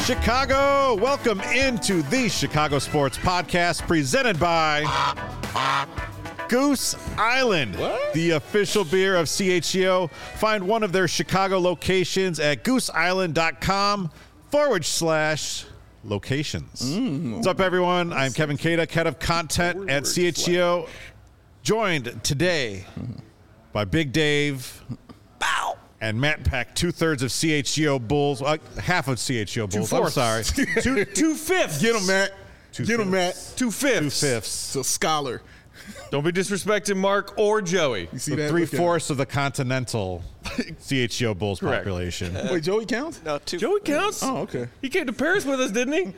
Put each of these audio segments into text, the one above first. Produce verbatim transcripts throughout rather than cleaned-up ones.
Chicago, welcome into the Chicago Sports Podcast presented by Goose Island, what? the official beer of C H G O. Find one of their Chicago locations at gooseisland.com forward slash locations. Mm. What's up, everyone? I'm Kevin Cada, head of content at C H G O, joined today by Big Dave. Bow. And Matt Peck, two-thirds of C H G O Bulls, uh, half of C H G O Bulls. I'm sorry. two, two-fifths. Get him, Matt. Two Get him, Matt. Two-fifths. Two-fifths. It's a scholar. Don't be disrespecting Mark or Joey. You see So that? three-fourths of the continental C H G O Bulls Correct. population. Uh, Wait, Joey counts? No, two. Joey counts. Oh, okay. He came to Paris with us, didn't he?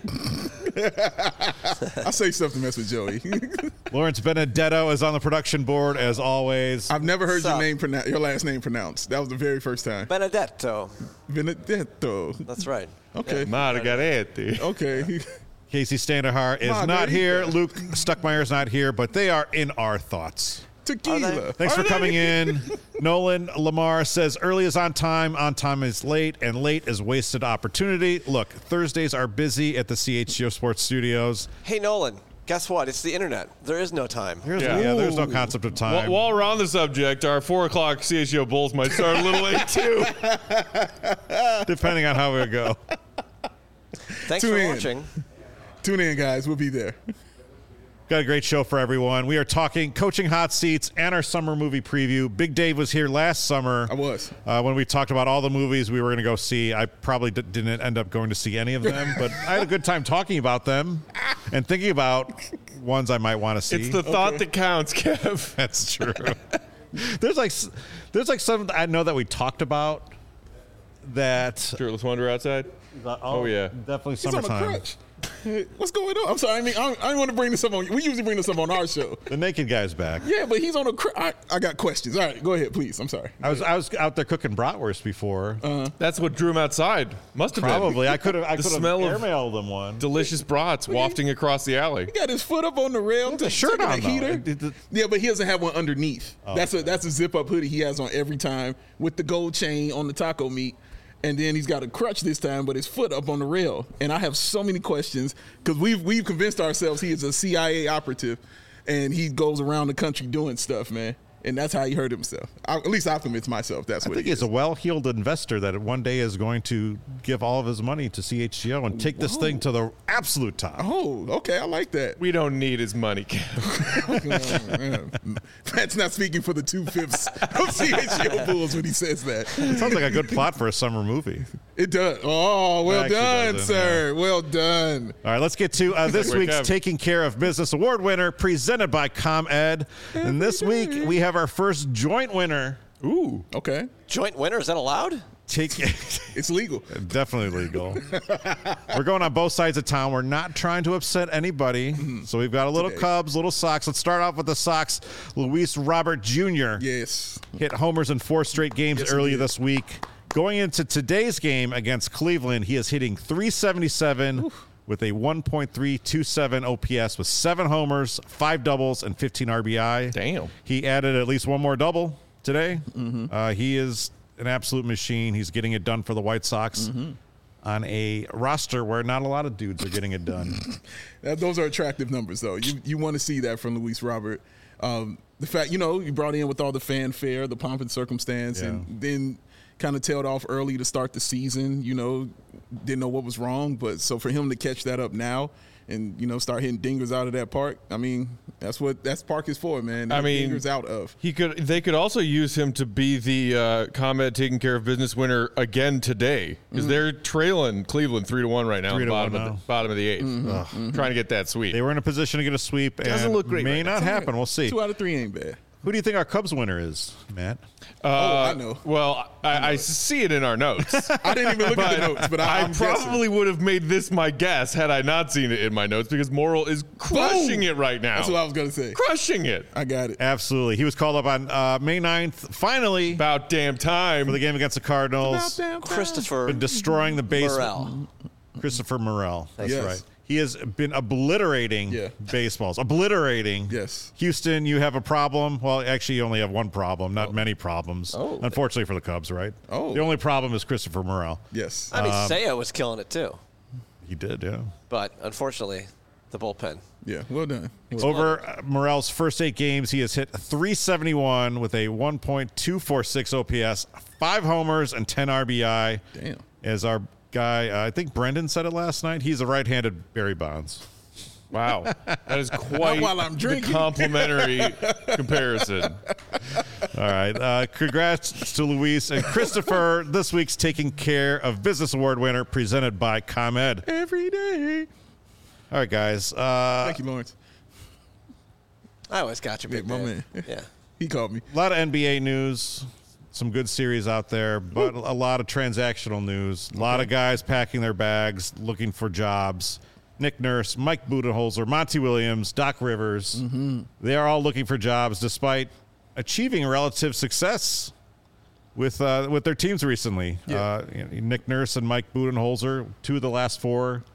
I say stuff to mess with Joey. Lawrence Benedetto is on the production board, as always. I've never heard What's your up? name pronoun- your last name pronounced. That was the very first time. Benedetto. Benedetto. That's right. Okay. Margaretti. Okay. Casey Standahar is Margarita. not here. Luke Stuckmeyer is not here, but they are in our thoughts. Tequila. Thanks Are for they? coming in. Nolan Lamar says early is on time, on time is late, and late is wasted opportunity. Look, Thursdays are busy at the C H G O Sports Studios. Hey, Nolan, guess what? It's the internet. There is no time. There's, Yeah. yeah. there's no concept of time. While, while we're on the subject, our four o'clock C H G O Bulls might start a little late too. Depending on how we go. Thanks Tune for in. watching. Tune in, guys. We'll be there. Got a great show for everyone. We are talking coaching hot seats and our summer movie preview. Big Dave was here last summer. I was. Uh, when we talked about all the movies we were going to go see. I probably d- didn't end up going to see any of them, but I had a good time talking about them and thinking about ones I might want to see. It's the thought that counts, Kev. That's true. there's like s- there's like some I know that we talked about that. Shirtless Wonder outside. Oh, yeah. Definitely He's on a summertime. crutch. What's going on? I'm sorry. I mean, I, I want to bring this up on. We usually bring this up on our show. The naked guy's back. Yeah, but he's on a crutch. I, I got questions. All right, go ahead, please. I'm sorry. I was I was out there cooking bratwurst before. That's what drew him outside. Must have Probably I could have I The could have smell of- airmailed him one. been delicious brats wafting across the alley. He got his foot up on the rail. a shirt taking on, a though. heater. It- it- Yeah, but he doesn't have one underneath. Oh, that's a that's a zip up hoodie he has on every time with the gold chain on the taco meat. And then he's got a crutch this time, but his foot up on the rail. And I have so many questions because we've we've convinced ourselves he is a C I A operative, and he goes around the country doing stuff, man. And that's how he hurt himself. I, at least I convinced myself that's I what think he he's is. a well-heeled investor that one day is going to give all of his money to C H G O and take this Whoa. thing to the absolute top. Oh, okay, I like that. We don't need his money, Kev. Matt's not speaking for the two fifths of C H G O Bulls when he says that. It sounds like a good plot for a summer movie. It does. Oh, well actually done, doesn't, sir. Well done. All right, let's get to uh, this Wake week's up. Taking Care of Business Award winner, presented by ComEd. And this week we have our first joint winner. Ooh. Okay, Joint winner, is that allowed? Take it's legal. definitely legal. We're going on both sides of town. We're not trying to upset anybody. So we've got a little Today. Cubs, little Sox. Let's start off with the Sox. Luis Robert Junior Yes. hit homers in four straight games Yes, he earlier did. this week. Going into today's game against Cleveland, he is hitting three seventy-seven with a one point three two seven O P S with seven homers, five doubles, and fifteen R B I. Damn. He added at least one more double today. Mm-hmm. Uh, he is an absolute machine. He's getting it done for the White Sox Mm-hmm. on a roster where not a lot of dudes are getting it done. That, those are attractive numbers, though. You you want to see that from Luis Robert. Um, the fact, you know, you brought in with all the fanfare, the pomp and circumstance, Yeah. and then kind of tailed off early to start the season. You know, didn't know what was wrong, but so for him to catch that up now and, you know, start hitting dingers out of that park, I mean, that's what that's park is for, man. I mean, dingers out of. He could. They could also use him to be the uh, ComEd Taking Care of Business winner again today, because they're trailing Cleveland three to one right now, Three in to the bottom one of now. the bottom of the eighth, trying to get that sweep. They were in a position to get a sweep. Doesn't and look great May right not It's all happen. right. We'll see. Two out of three ain't bad. Who do you think our Cubs winner is, Matt? Uh, Oh, I know. Well, I, I see it in our notes. I didn't even look at the notes, but I, I I'm guessing. probably would have made this my guess had I not seen it in my notes, because Morrill is crushing Boom! it right now. That's what I was gonna say. Crushing it. I got it. Absolutely. He was called up on uh, May ninth, finally, About damn time. for the game against the Cardinals. Christopher Been destroying the base. Morel. Christopher Morel. That's Yes. right. He has been obliterating Yeah. baseballs. Obliterating. Yes. Houston, you have a problem. Well, actually, you only have one problem, not many problems. Oh. Unfortunately for the Cubs, right? Oh. The only problem is Christopher Morel. Yes. I mean, Um, Seiya was killing it too. He did, yeah. But unfortunately, the bullpen. Yeah, well done. Well, Over uh, Morel's first eight games, he has hit three seventy-one with a one point two four six O P S, five homers, and ten R B I. damn. As our guy, uh, I think Brendan said it last night, he's a right-handed Barry Bonds. Wow, that is quite while I'm the drinking. complimentary comparison. All right. Uh, congrats to Luis and Christopher. This week's Taking Care of Business Award winner presented by ComEd. Every day. All right, guys. Uh, Thank you, Lawrence. I always got you, big my man. man. Yeah. He called me. a lot of N B A news, some good series out there, but a lot of transactional news. A lot of guys packing their bags, looking for jobs. Nick Nurse, Mike Budenholzer, Monty Williams, Doc Rivers. Mm-hmm. They are all looking for jobs despite achieving relative success with uh, with their teams recently. Yeah. Uh, you know, Nick Nurse and Mike Budenholzer, two of the last four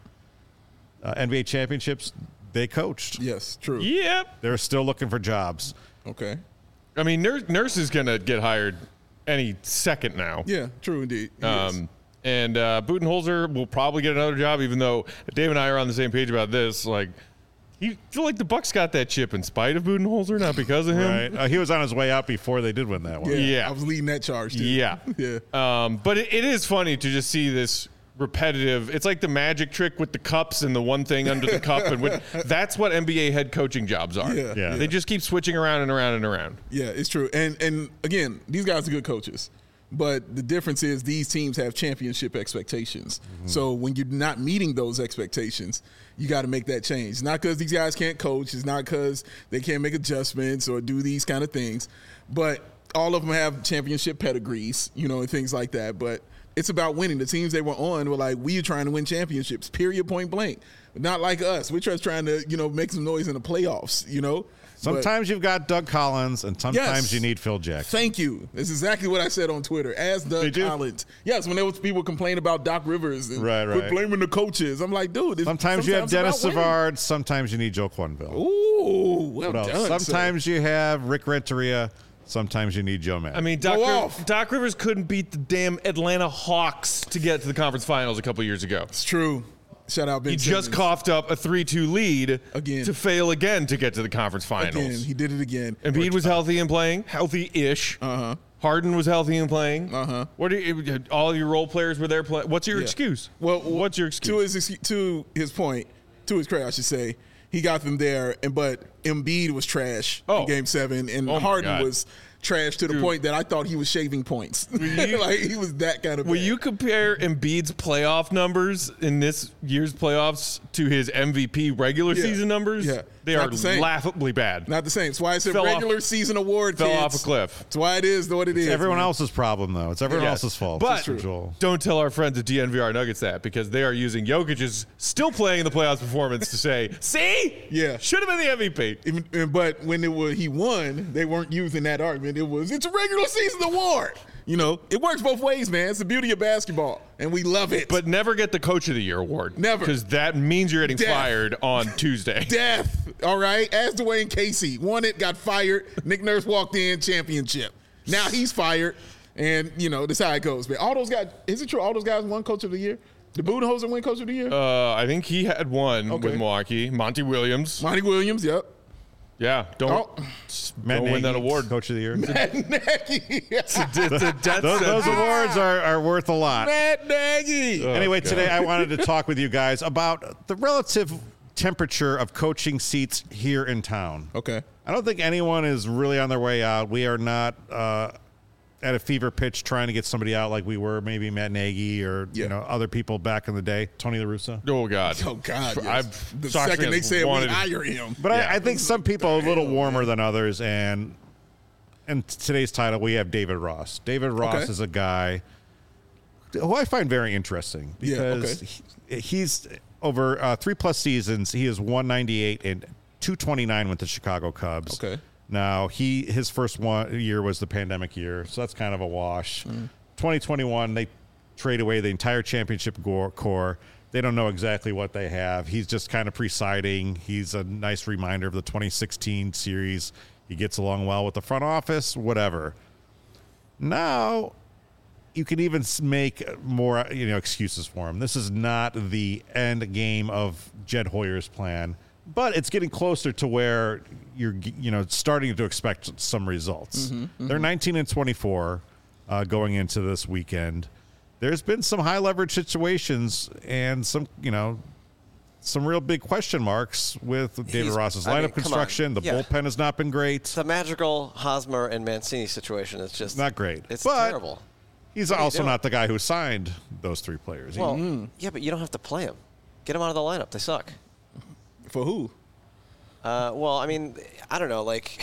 uh, N B A championships, they coached. Yes, true. Yep. They're still looking for jobs. Okay. I mean, Nurse, Nurse is going to get hired any second now. Yeah, true indeed. He is. Um, and uh, Budenholzer will probably get another job, even though Dave and I are on the same page about this. Like, you feel like the Bucks got that chip in spite of Budenholzer, not because of him. Right? Uh, he was on his way out before they did win that one. yeah, yeah. I was leading that charge, too. Yeah. Yeah. Um, but it, it is funny to just see this repetitive. It's like the magic trick with the cups and the one thing under the cup, and with, that's what N B A head coaching jobs are. Yeah, Yeah. They just keep switching around and around and around. Yeah, it's true. And and again, these guys are good coaches. But the difference is these teams have championship expectations. Mm-hmm. So when you're not meeting those expectations, you got to make that change. It's not because these guys can't coach. It's not because they can't make adjustments or do these kind of things. But all of them have championship pedigrees, you know, and things like that. But it's about winning. The teams they were on were like, we are trying to win championships, period, point blank. Not like us. We're just trying to, you know, make some noise in the playoffs, you know. Sometimes but, you've got Doug Collins, and sometimes yes, you need Phil Jackson. Thank you. That's exactly what I said on Twitter. As Doug Collins. Yes, when there was people complaining about Doc Rivers and right, right. quit blaming the coaches. I'm like, dude. It's, sometimes, sometimes you have Dennis Savard. Sometimes you need Joe Quenneville. Ooh, well done. Sometimes sir. you have Rick Renteria. Sometimes you need Joe Madden. I mean, Doc, Riv- Doc Rivers couldn't beat the damn Atlanta Hawks to get to the conference finals a couple years ago. It's true. Shout out Ben He Simmons. just coughed up a three two lead again to fail again to get to the conference finals. Again, he did it again. Embiid was healthy and playing, healthy-ish. Uh-huh. Harden was healthy and playing. Uh-huh. What are you, all your role players were there playing? What's your Yeah. excuse? Well, what's your excuse? To his to his point, to his credit, I should say, he got them there, and but Embiid was trash Oh. in Game Seven, and Oh my Harden God. was trash to the Dude. point that I thought he was shaving points. you- like he was that kind of. Will bad. you compare Embiid's playoff numbers in this year's playoffs to his M V P regular Yeah. season numbers? Yeah. They Not are the same. laughably bad. Not the same. That's why it's a Fell off- regular season award. Fell kids. off a cliff. That's why it is what it is. everyone man. else's problem, though. It's everyone Yes. else's fault. But Joel. don't tell our friends at D N V R Nuggets that, because they are using Jokic's still playing in the playoffs performance to say, see? Yeah. Should have been the M V P. Even, but when it was he won, they weren't using that argument. It was it's a regular season award. You know, it works both ways, man. It's the beauty of basketball, and we love it. But never get the Coach of the Year award. Never. Because that means you're getting Death. fired on Tuesday. Death. All right. As Dwayne Casey won it, got fired. Nick Nurse walked in, championship. Now he's fired, and you know that's how it goes. Man, all those guys. Is it true? All those guys won Coach of the Year. Did Budenholzer win Coach of the Year? Uh, I think he had one Okay. with Milwaukee. Monty Williams. Monty Williams. Yep. Yeah. Don't, Oh. Matt don't win that Nagy, award. Coach of the Year. Matt Nagy. It's a death those, those sentence. awards are, are worth a lot. Matt Nagy. Anyway, God. today I wanted to talk with you guys about the relative temperature of coaching seats here in town. Okay. I don't think anyone is really on their way out. We are not uh, at a fever pitch trying to get somebody out like we were, maybe Matt Nagy or Yeah. you know other people back in the day, Tony La Russa. Oh, God. Oh God. Yes. I've the Sox second they fans said we wanted- hire him. But Yeah. I, I think some people are a little hell, warmer man. than others, and in today's title we have David Ross. David Ross Okay. is a guy who I find very interesting Yeah, because he, he's over uh, three plus seasons. He is one ninety-eight and two twenty-nine with the Chicago Cubs. Okay. Now he his first one year was the pandemic year, so that's kind of a wash. Mm. twenty twenty-one they trade away the entire championship gore, core. They don't know exactly what they have. He's just kind of presiding. He's a nice reminder of the twenty sixteen series. He gets along well with the front office, whatever. Now, you can even s- make more, you know, excuses for him. This is not the end game of Jed Hoyer's plan, but it's getting closer to where you're, you know, starting to expect some results. Mm-hmm, mm-hmm. They're nineteen and twenty-four uh, going into this weekend. There's been some high leverage situations and some, you know, some real big question marks with David He's- Ross's I lineup mean, come on. construction. The Yeah. bullpen has not been great. The magical Hosmer and Mancini situation is just Not great. It's But terrible. He's What are you also doing? not the guy who signed those three players. He- Well, yeah, but you don't have to play them. Get them out of the lineup. They suck. For who? Uh, well, I mean, I don't know. Like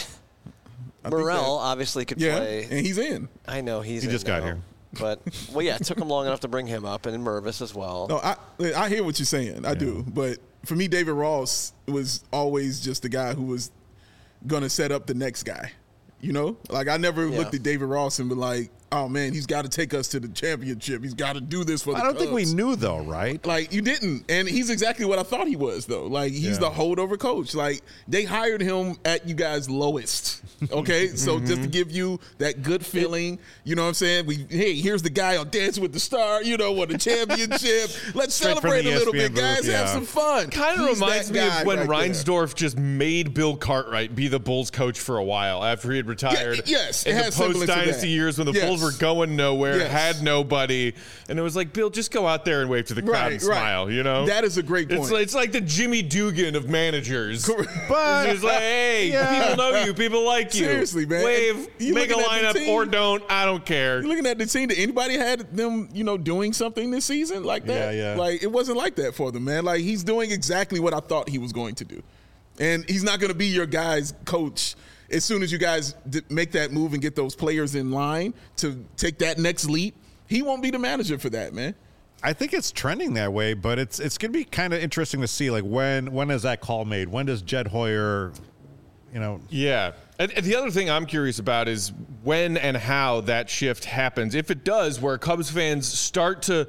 I think Morrell that- obviously could Yeah, play. and he's in. I know he's. He in just got now, here. But well, yeah, it took him long enough to bring him up, and Mervis as well. No, I I hear what you're saying. I do, but for me, David Ross was always just the guy who was gonna set up the next guy. You know, like I never Yeah. looked at David Ross and been like, "Oh man, he's got to take us to the championship. He's got to do this for the I don't think we Cubs." knew, though, right? Like you didn't, and he's exactly what I thought he was, though. Like he's Yeah. the holdover coach. Like they hired him at you guys' lowest. Okay, so just to give you that good feeling, you know what I'm saying? We hey, here's the guy on Dancing with the Star. You know, won the championship. Let's Straight from celebrate the a little E S P N bit, guys. booth, Have yeah. some fun. Kind of He's reminds that me guy of when right there. Reinsdorf just made Bill Cartwright be the Bulls coach for a while after he had retired. Yeah, yes, it in the has semblance of post-dynasty that. years when the Yes. Bulls were going nowhere, Yes. had nobody, and it was like, Bill, just go out there and wave to the crowd Right, and right. smile, you know? That is a great It's point. like, it's like the Jimmy Dugan of managers. But It's like, hey, Yeah. people know you, people like you. Seriously, man. Wave, You make a looking at the lineup team? or don't, I don't care. You're looking at the team. Did anybody had them, you know, doing something this season like that? Yeah, yeah. Like it wasn't like that for them, man. Like he's doing exactly what I thought he was going to do, and he's not going to be your guys' coach as soon as you guys d- make that move and get those players in line to take that next leap. He won't be the manager for that, man. I think it's trending that way, but it's it's going to be kind of interesting to see, like, when when is that call made? When does Jed Hoyer, you know, Yeah. And, and the other thing I'm curious about is when and how that shift happens. If it does, where Cubs fans start to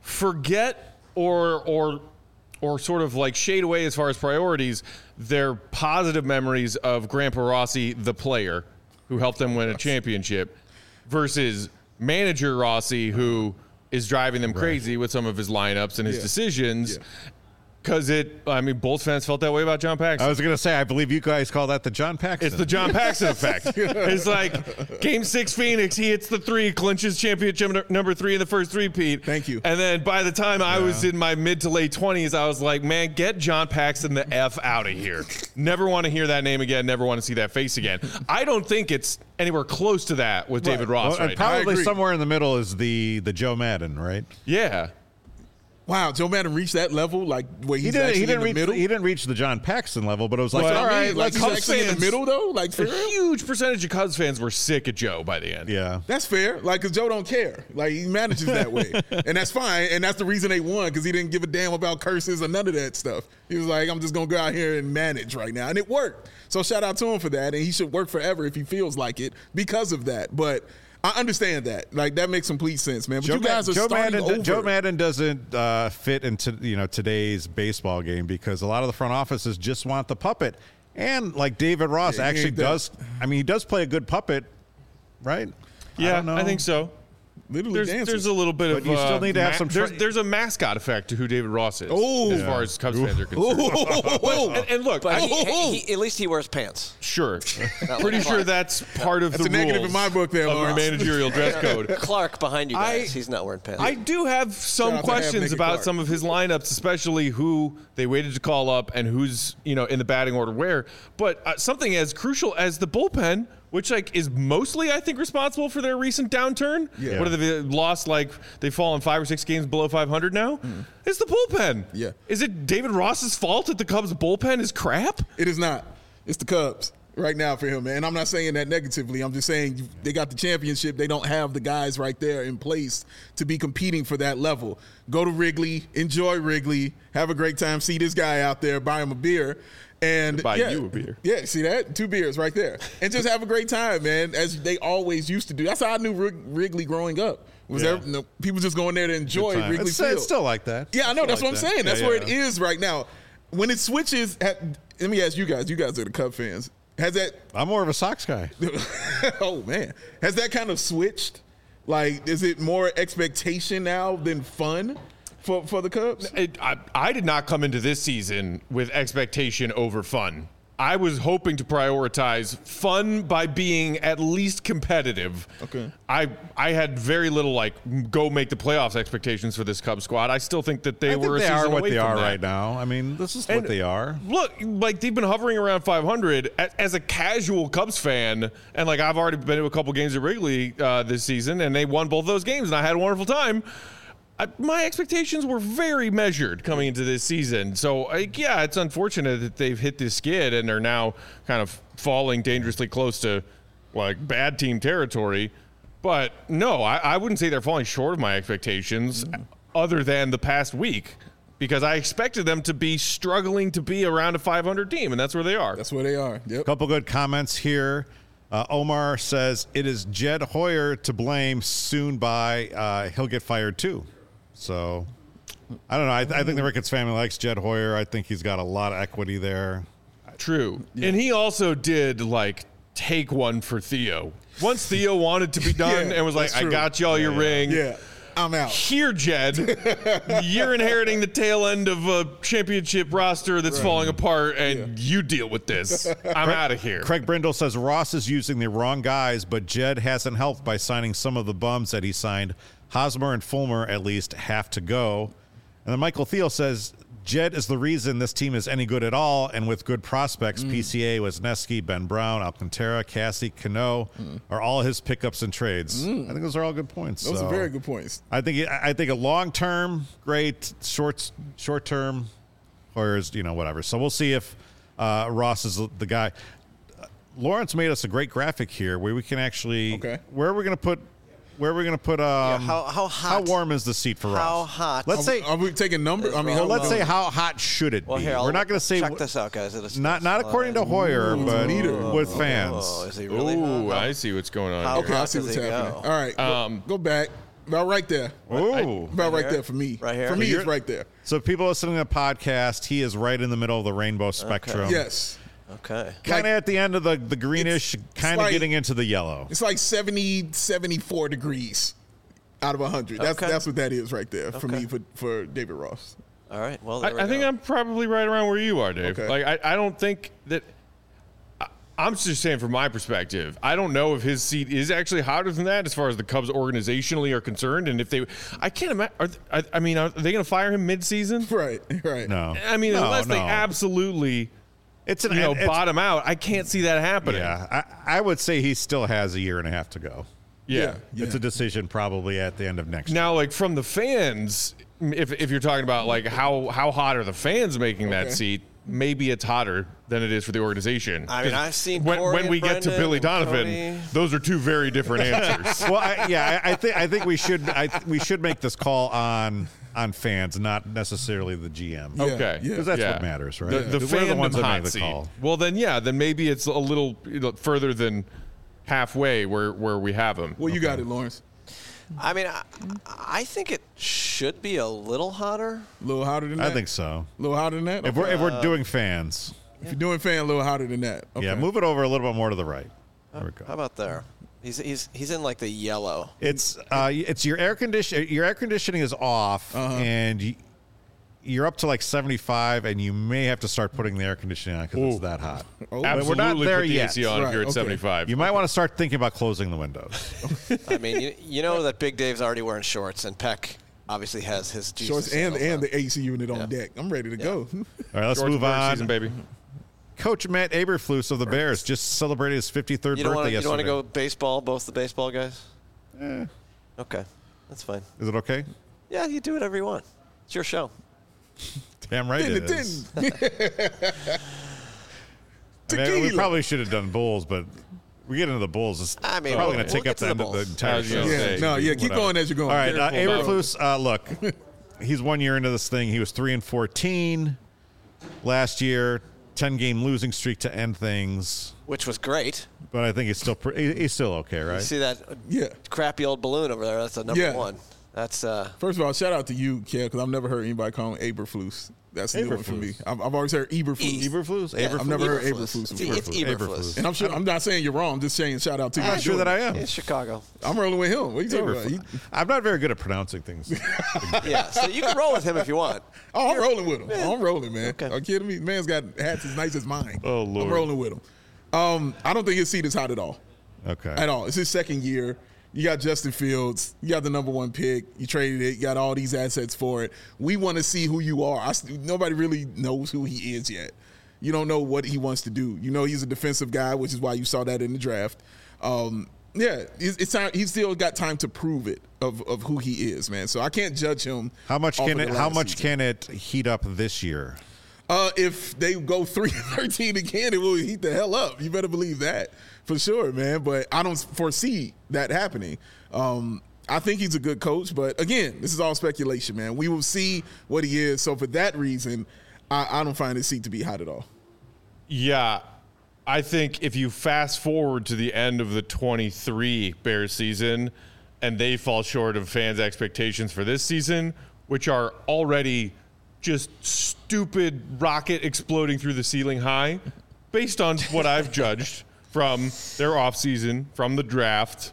forget or or or sort of like shade away as far as priorities their positive memories of Grandpa Rossi, the player who helped them win a championship, versus manager Rossi, who is driving them crazy with some of his lineups and his Yeah. decisions. Yeah. Because it, I mean, Bulls fans felt that way about John Paxson. I was going to say, I believe you guys call that the John Paxton. It's the John Paxson effect. It's like Game Six Phoenix. He hits the three, clinches championship n- number three in the first three-peat. Thank you. And then by the time I was in my mid to late twenties, I was like, man, get John Paxson the F out of here. Never want to hear that name again. Never want to see that face again. I don't think it's anywhere close to that with David Ross Well, and right now. probably agree. somewhere in the middle is the the Joe Madden, right? Yeah. Wow, Joe Madden reached that level, like where he's He didn't. actually He didn't in the reach. middle. He didn't reach the John Paxton level, but it was like, Well, all I right, Like let's. he's Cubs actually in the fans- middle though, like for A real. huge percentage of Cubs fans were sick of Joe by the end. Yeah. That's fair. Like, cause Joe don't care. Like, he manages that way, and that's fine. And that's the reason they won, because he didn't give a damn about curses or none of that stuff. He was like, I'm just gonna go out here and manage right now, and it worked. So shout out to him for that, and he should work forever if he feels like it because of that. But I understand that. Like, that makes complete sense, man. But Joe, you guys Ma- are Joe starting Madden. over. Joe Madden doesn't uh, fit into you know today's baseball game because a lot of the front offices just want the puppet, and like David Ross Yeah, he actually ain't that. does. I mean, he does play a good puppet, right? Yeah, don't know. I think so. Literally There's, dances. there's a little bit But of. you still uh, need to have some there's, tra- there's a mascot effect to who David Ross is, Oh. as Yeah. far as Cubs fans are concerned. Oh, And, and look, But I, he, he, he, at least he wears pants. sure, Not pretty like sure Clark. that's part of That's the a negative rules in my book there, of Lawrence. managerial dress code. Clark behind you I- guys. He's not wearing pants. I do have Shout some out to Half questions Naked about Clark. some of his lineups, especially who they waited to call up and who's you know in the batting order where. But uh, something as crucial as the bullpen, which like is mostly I think responsible for their recent downturn. Yeah. What have they lost? Like they've fallen five or six games below five hundred now. It's the bullpen. Yeah. Is it David Ross's fault that the Cubs bullpen is crap? It is not. It's the Cubs right now for him, man. And I'm not saying that negatively. I'm just saying they got the championship. They don't have the guys right there in place to be competing for that level. Go to Wrigley, enjoy Wrigley, have a great time, see this guy out there, buy him a beer. And Buy yeah, you a beer. Yeah, see that? Two beers right there. And just have a great time, man, as they always used to do. That's how I knew Wrig- Wrigley growing up. Was Yeah. there, no, people just going there to enjoy Time. Wrigley It's, Field. it's still like that. Yeah, I know. Still That's like what I'm that. saying. That's Yeah, where yeah. it is right now. When it switches, at, let me ask you guys. You guys are the Cub fans. Has that? I'm more of a Sox guy. Oh man, has that kind of switched Like, is it more expectation now than fun for for the Cubs? It, I, I did not come into this season with expectation over fun. I was hoping to prioritize fun by being at least competitive. Okay. I I had very little like go make the playoffs expectations for this Cubs squad. I still think that they I think were a they season are what away they from are that. right now. I mean, this is And what they are. Look, like they've been hovering around five hundred. A- As a casual Cubs fan, and like I've already been to a couple games at Wrigley uh, this season, and they won both those games, and I had a wonderful time. I, my expectations were very measured coming into this season. So, like, yeah, it's unfortunate that they've hit this skid and are now kind of falling dangerously close to like bad team territory. But no, I, I wouldn't say they're falling short of my expectations mm. other than the past week, because I expected them to be struggling to be around a five hundred team, and that's where they are. That's where they are. Yep. Couple good comments here. Uh, Omar says, it is Jed Hoyer to blame. Soon by, uh, he'll get fired too. So, I don't know. I, I think the Ricketts family likes Jed Hoyer. I think he's got a lot of equity there. True. Yeah. And he also did, like, take one for Theo. Once Theo wanted to be done yeah, and was like, I got y'all your yeah, ring. Yeah, I'm out. Here, Jed, you're inheriting the tail end of a championship roster that's right. falling apart, and yeah. you deal with this. I'm out of here. Craig Brindle says Ross is using the wrong guys, but Jed hasn't helped by signing some of the bums that he signed. Hosmer and Fulmer at least have to go. And then Michael Thiel says Jed is the reason this team is any good at all, and with good prospects, mm. P C A, Wisniewski, Ben Brown, Alcantara, Cassie, Cano mm. are all his pickups and trades. Mm. I think those are all good points. Those so are very good points. I think I think a long term, great. Short short term, Hoyer's, you know, whatever. So we'll see if uh, Ross is the guy. Uh, Lawrence made us a great graphic here where we can actually. Okay. Where are we going to put? Where are we going to put? Um, yeah, how, how hot? How warm is the seat for Ross? How hot? Let's are, say. Are we taking numbers? I mean, well, let's say how hot should it well, be? Here, We're not going to say. Check this out, guys. It not not according to Hoyer, Ooh, but meter. with fans. Oh, is he really Ooh, hot? I see what's going on. How here. Okay, I see what's happening. Go? All right, Um, go, go back. About right there. Ooh. About right here? there for me. Right here? For me, You're- it's right there. So people listening to the podcast, he is right in the middle of the rainbow spectrum. Yes. Okay. Kind of Like- at the end of the, the greenish, It's- it's kind of like- getting into the yellow. It's like seventy, seventy-four degrees out of one hundred. That's Okay. that's what that is right there for Okay. me, for, for David Ross. All right. Well, I, there we I think go. I'm probably right around where you are, Dave. Okay. Like, I, I don't think that. I, I'm just saying, from my perspective, I don't know if his seat is actually hotter than that as far as the Cubs organizationally are concerned. And if they, I can't imagine. Are, I, I mean, are they going to fire him mid-season? Right, right. No. I mean, No, unless they no. absolutely, It's an you know, it's- bottom out, I can't see that happening. Yeah, I, I would say he still has a year and a half to go. Yeah. Yeah. It's a decision probably at the end of next year. Now, like from the fans, if if you're talking about like how how hot are the fans making that Okay. seat, maybe it's hotter than it is for the organization. I mean, 'Cause I've seen when, Corey when and we get to Brendan Billy and Donovan, Cody. those are two very different answers. Well, I, yeah, I, I think I think we should I, we should make this call on on fans, not necessarily the G M. Yeah, Okay, yeah. Because that's Yeah. what matters, right? The, the We're the fandom ones that hot make the seat. call. Well, then yeah, then maybe it's a little you know, further than halfway where where we have him. Well, you got it, Lawrence. I mean, I, I think it should be a little hotter. A little hotter than that? I think so. A little hotter than that? If we're if we're doing fans, If you're doing fan, a little hotter than that. Okay. yeah, move it over a little bit more to the right. There we How go. about there? He's he's he's in like the yellow. It's uh, it's your air condition. Your air conditioning is off, Uh-huh. and you, you're up to like seventy-five, and you may have to start putting the air conditioning on because it's Ooh. that hot. Oh. But Absolutely, we're not there put the yet. A C on if Right, you're at okay. seventy-five. You might want to start thinking about closing the windows. I mean, you, you know that Big Dave's already wearing shorts, and Peck obviously has his Jesus Shorts and, sandals and on. the A C unit on Yeah. deck. I'm ready to go. All right, let's George move Bird on. season, baby. Coach Matt Aberflus of the Bears just celebrated his fifty-third You don't birthday want to you don't want yesterday. to go baseball, both the baseball guys? Eh, Okay, that's fine. is it okay? Yeah, you do whatever you want. It's your show. Damn right Didn't it it is. didn't. I mean, we Tequila. probably should have done Bulls, but we get into the Bulls. It's I mean, probably we'll- going to we'll take get up to the the end of the Bulls. entire I was show. gonna Yeah, say, no, yeah, keep whatever. going as you're going. All right, uh, Careful, Aberflus, uh, look, he's one year into this thing. He was three and fourteen last year, ten game losing streak to end things. Which was great. But I think he's still pre- he- he's still okay, You right? see that Yeah. crappy old balloon over there? That's a number Yeah. one. That's uh, First of all, shout out to you, Kev, because I've never heard anybody call him Eberflus. That's a new one for me. I've, I've always heard Eberflus. Eberflus? Yeah, Eberflus? I've never heard Eberflus. Eberflus It's, before. it's Eberflus. And I'm sure I'm not saying you're wrong. I'm just saying shout out to you. I'm for sure doing that I it. am. It's Chicago. I'm rolling with him. What are you talking about? He, I'm not very good at pronouncing things. Yeah, so you can roll with him if you want. oh, I'm rolling with him. Oh, I'm rolling, man. Okay. Are you kidding me? Man's got hats as nice as mine. Oh, Lord. I'm rolling with him. Um, I don't think his seat is hot at all. Okay. At all. It's his second year. You got Justin Fields. You got the number one pick. You traded it. You got all these assets for it. We want to see who you are. I, nobody really knows who he is yet. You don't know what he wants to do. You know he's a defensive guy, which is why you saw that in the draft. Um, yeah, it's, it's time. He's still got time to prove it of, of who he is, man. So I can't judge him. How much off can of it? the How last much season. can it heat up this year? Uh, if they go three and thirteen again, it will heat the hell up. You better believe that for sure, man. But I don't foresee that happening. Um, I think he's a good coach, but again, this is all speculation, man. We will see what he is. So for that reason, I, I don't find his seat to be hot at all. Yeah, I think if you fast forward to the end of the twenty-three Bears season and they fall short of fans' expectations for this season, which are already just stupid rocket exploding through the ceiling high, based on what I've judged from their offseason, from the draft,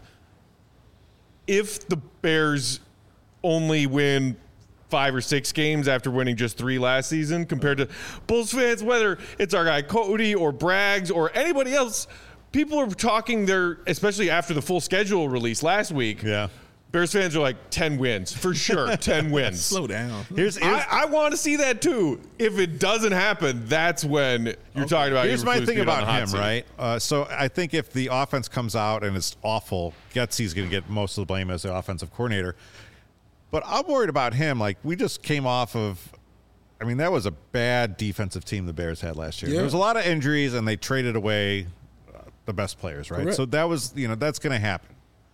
if the Bears only win five or six games after winning just three last season compared to Bulls fans, whether it's our guy Cody or Braggs or anybody else, people are talking their, especially after the full schedule release last week. Yeah. Bears fans are like ten wins for sure. ten wins. Slow down. Here's, here's I, I want to see that too. If it doesn't happen, that's when you're talking about. Here's my Eberflus thing being on about the hot him, seat. right? Uh, so I think if the offense comes out and it's awful, Getsy's going to get most of the blame as the offensive coordinator. But I'm worried about him. Like, we just came off of, I mean, that was a bad defensive team the Bears had last year. Yeah. There was a lot of injuries, and they traded away uh, the best players, right? Correct. So that was, you know, that's going to happen.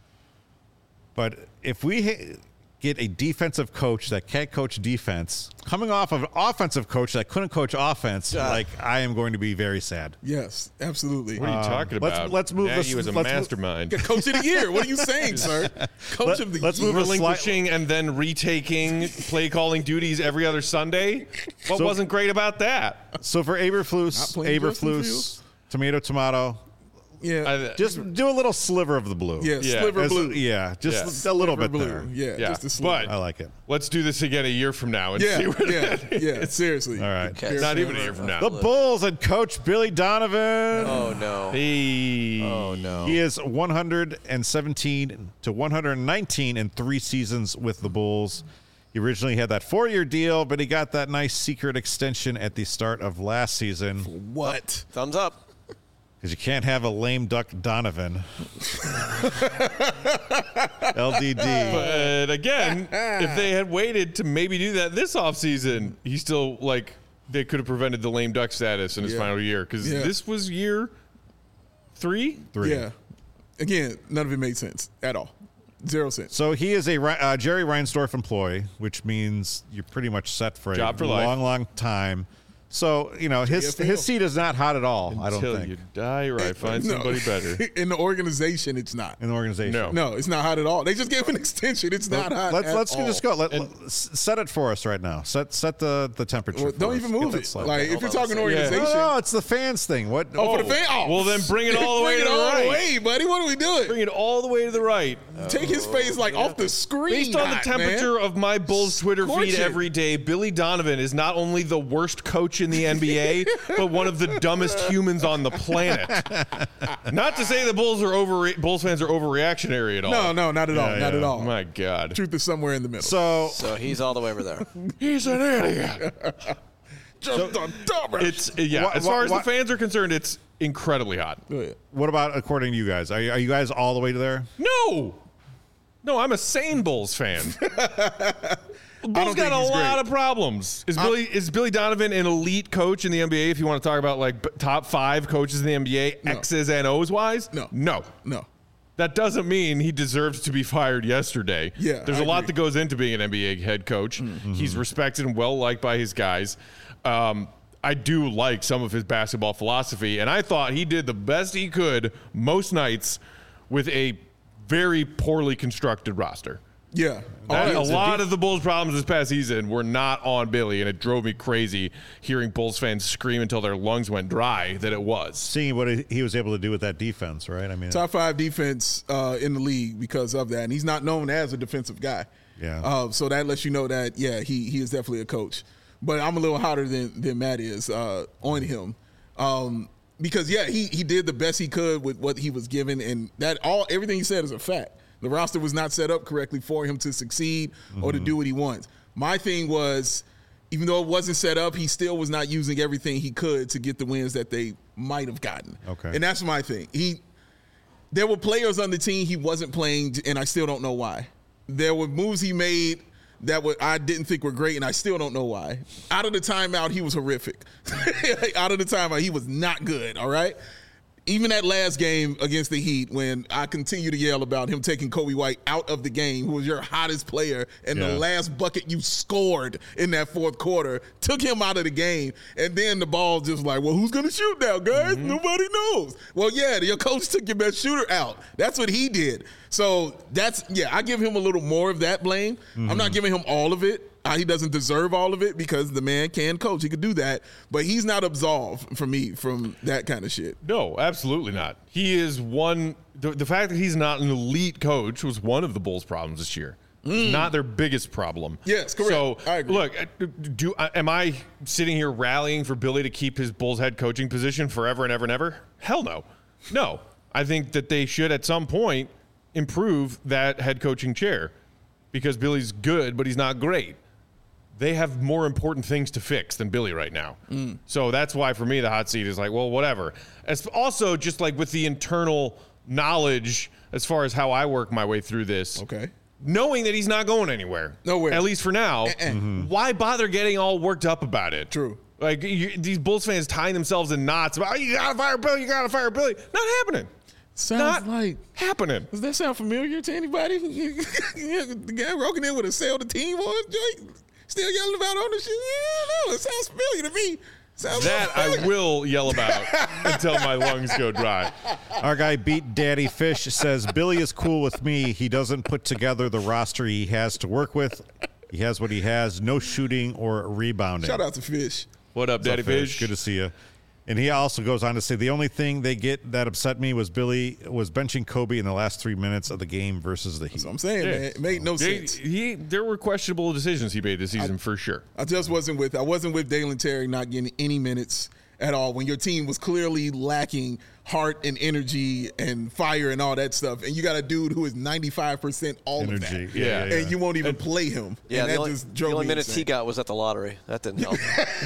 But if we ha- get a defensive coach that can't coach defense, coming off of an offensive coach that couldn't coach offense, Yeah. like, I am going to be very sad. Yes, absolutely. What are you talking let's- about? let's move Nagy this- was a let's move- mastermind. Coach of the year. What are you saying, sir? Coach Let- of the let's year. move a sli- Relinquishing and then retaking play calling duties every other Sunday. What So- wasn't great about that? So for Not Eberflus, playing Justin Eberflus, Fields? tomato, tomato, Yeah. I- just do a little sliver of the blue. yeah, Yeah. sliver As- blue. Yeah, just Yeah. a little Sliver bit blue. there. Yeah, Yeah, just a sliver. but- I like it. Let's do this again a year from now and Yeah, see what yeah, that is. yeah. Seriously. All right. Okay. Not even a year from now. The Bulls and Coach Billy Donovan. Oh no. Hey. Oh no. He is one hundred seventeen to one hundred nineteen in three seasons with the Bulls. He originally had that four-year deal, but he got that nice secret extension at the start of last season What? Thumbs up. because you can't have a lame duck Donovan. L D D. But again, if they had waited to maybe do that this offseason, he still, like, they could have prevented the lame duck status in his Yeah. final year because Yeah. this was year three. Three. Yeah. Again, none of it made sense at all. Zero sense. So he is a Ri- uh, Jerry Reinsdorf employee, which means you're pretty much set for Job a for life. long, long time. So, you know, his J F L. his seat is not hot at all, I don't Until think, you die or I find No. somebody better. In the organization, it's not. in the organization. No. No, it's not hot at all. They just gave an extension. It's not hot. Let's at let's all. just go. Let, let- s- set it for us right now. Set set the, the temperature. Well, for don't us. even Get move that it. slide. Like if Hold you're on a talking second. organization, no, no, it's the fans thing. What? oh, for the fan. Oh, Well, then bring it all the way bring to it the all right. the way, buddy. What are we doing? Bring it all the way to the right. Take his face like off the screen. Based on the not, temperature man. of my Bulls Twitter Scorch feed it. every day, Billy Donovan is not only the worst coach in the N B A, but one of the dumbest humans on the planet. Not to say the Bulls are over Bulls fans are overreactionary at all. No, no, not at all. Yeah, Not yeah. at all. My God. Truth is somewhere in the middle. So So he's all the way over there. He's an idiot. Just a dumbass. It's yeah. Wha- as wha- far as wha- the fans are concerned, it's incredibly hot. Go ahead. what about according to you guys? Are you, are you guys all the way to there? No, no, I'm a sane Bulls fan. Bulls think got a he's lot great. of problems. Is Billy is Billy Donovan an elite coach in the N B A? If you want to talk about like b- top five coaches in the N B A, No. X's and O's wise, No. no. No. That doesn't mean he deserves to be fired yesterday. Yeah, There's I a lot agree. that goes into being an N B A head coach. Mm-hmm. He's respected and well liked by his guys. Um, I do like some of his basketball philosophy, and I thought he did the best he could most nights with a very poorly constructed roster. Yeah. That- Oh, a yeah. lot of the Bulls' problems this past season were not on Billy, and it drove me crazy hearing Bulls fans scream until their lungs went dry that it was. Seeing what he was able to do with that defense, right? I mean, Top five defense uh, in the league because of that. And he's not known as a defensive guy. Yeah. Uh, so that lets you know that, yeah, he he is definitely a coach. But I'm a little hotter than, than Matt is uh, on him. Um, because, yeah, he, he did the best he could with what he was given. And that all everything he said is a fact. The roster was not set up correctly for him to succeed mm-hmm. or to do what he wants. My thing was, even though it wasn't set up, he still was not using everything he could to get the wins that they might have gotten. Okay. And that's my thing. He, there were players on the team he wasn't playing, and I still don't know why. There were moves he made that were, I didn't think were great, and I still don't know why. Out of the timeout, he was horrific. Out of the timeout, he was not good, all right? Even that last game against the Heat, when I continue to yell about him taking Kobe White out of the game, who was your hottest player, and yeah. the last bucket you scored in that fourth quarter, took him out of the game, and then the ball just like, well, who's going to shoot now, guys? Mm-hmm. Nobody knows. Well, yeah, your coach took your best shooter out. That's what he did. So that's, yeah, I give him a little more of that blame. Mm-hmm. I'm not giving him all of it. Uh, he doesn't deserve all of it because the man can coach. He could do that. But he's not absolved for me from that kind of shit. No, absolutely not. He is one the, – the fact that he's not an elite coach was one of the Bulls' problems this year. Mm. Not their biggest problem. Yes, correct. So, I agree. Look, do am I sitting here rallying for Billy to keep his Bulls head coaching position forever and ever and ever? Hell no. No. I think that they should at some point improve that head coaching chair because Billy's good, but he's not great. They have more important things to fix than Billy right now. Mm. So that's why, for me, the hot seat is like, well, whatever. As also, just like with the internal knowledge as far as how I work my way through this. Okay. Knowing that he's not going anywhere. Nowhere. At least for now. Uh-uh. Mm-hmm. Why bother getting all worked up about it? True. Like, you, these Bulls fans tying themselves in knots about, oh, you got to fire Billy, you got to fire Billy. Not happening. Sounds not like happening. Does that sound familiar to anybody? The guy walking in with a sell the team on joint? Still yelling about ownership? Yeah, no, it sounds familiar to me. Sounds that familiar. I will yell about until my lungs go dry. Our guy Beat Daddy Fish says, Billy is cool with me. He doesn't put together the roster he has to work with. He has what he has, no shooting or rebounding. Shout out to Fish. What up, What's Daddy up, Fish? Fish? Good to see you. And he also goes on to say, the only thing they get that upset me was Billy was benching Kobe in the last three minutes of the game versus the Heat. That's what I'm saying, Yeah. man. It made no They- sense. He, there were questionable decisions he made this season for sure. I just wasn't with I wasn't with Dalen Terry not getting any minutes at all when your team was clearly lacking heart and energy and fire and all that stuff. And you got a dude who is ninety-five percent all Energy. of that. Yeah, yeah, yeah. And you won't even play him. Yeah, and the that only, just the drove only me minutes insane. he got was at the lottery. That didn't help.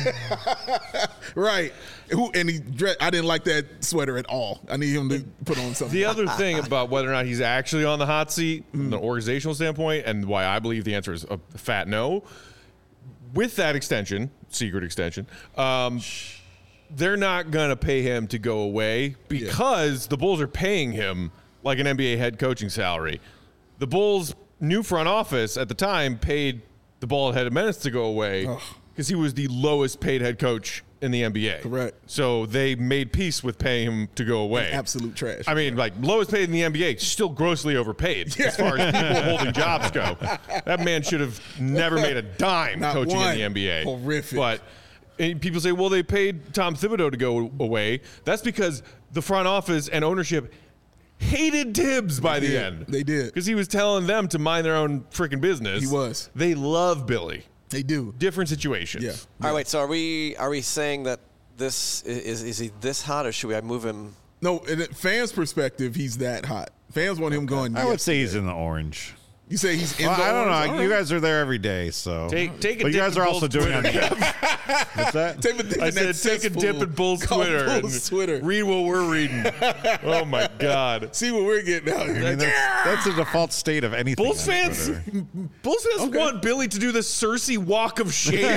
Right. Who and he dre- I didn't like that sweater at all. I need him to put on something. The other thing about whether or not he's actually on the hot seat from an organizational standpoint, and why I believe the answer is a fat no, with that extension, secret extension, um, they're not going to pay him to go away because yeah. the Bulls are paying him like an N B A head coaching salary. The Bulls' new front office at the time paid the bald-headed menace to go away because he was the lowest paid head coach in the N B A. Correct. So they made peace with paying him to go away. Absolute trash. I mean, like, lowest paid in the N B A, still grossly overpaid as far as people holding jobs go. That man should have never made a dime Not coaching one. in the N B A. Horrific. But and people say, well, they paid Tom Thibodeau to go away. That's because the front office and ownership hated Tibbs by They the did. end. They did. Because he was telling them to mind their own freaking business. He was. They love Billy. They do. Different situations. Yeah. All right, wait. So are we are we saying that this is is he this hot, or should we move him? No, in a fans' perspective, he's that hot. Fans want him going. I would say yesterday. he's in the orange. You say he's in Well, the I don't know. orange? All You right. guys are there every day, so. Take, take a but you dip guys in are also Bulls doing on Twitter. the. What's that? Take a dip I in said, that take a cesspool dip in Bulls called Twitter. Bulls and Twitter. Read what we're reading. Oh, my God. See what we're getting out I here. mean, that's, that's the default state of anything. Bulls on fans, Twitter. Bulls fans Okay. want Billy to do the Cersei walk of shame,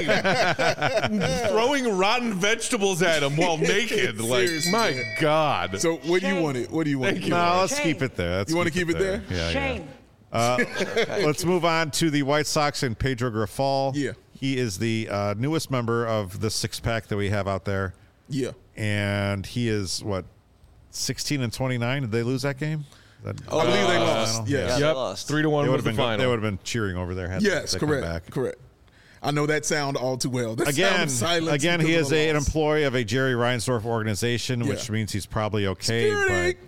throwing rotten vegetables at him while naked. Like, Seriously, my man. God. So what do you want it? What do you want? Thank it? you. No, let's Shame. keep it there. Let's You wanna keep it there? Yeah, Shame. yeah. Uh, let's move on to the White Sox and Pedro Grifol. Yeah. He is the uh, newest member of the six pack that we have out there. Yeah. And he is, what, sixteen and twenty-nine? Did they lose that game? That, I believe they Uh, lost. Yeah, Yes. they Yep, lost. three to one they was would the have been. final. They would have been cheering over there. Had Yes, they come correct. back. Correct. I know that sound all too well. That Again, sound of silence again, he because is of a, an loss. employee of a Jerry Reinsdorf organization, Yeah. which means he's probably okay. Security.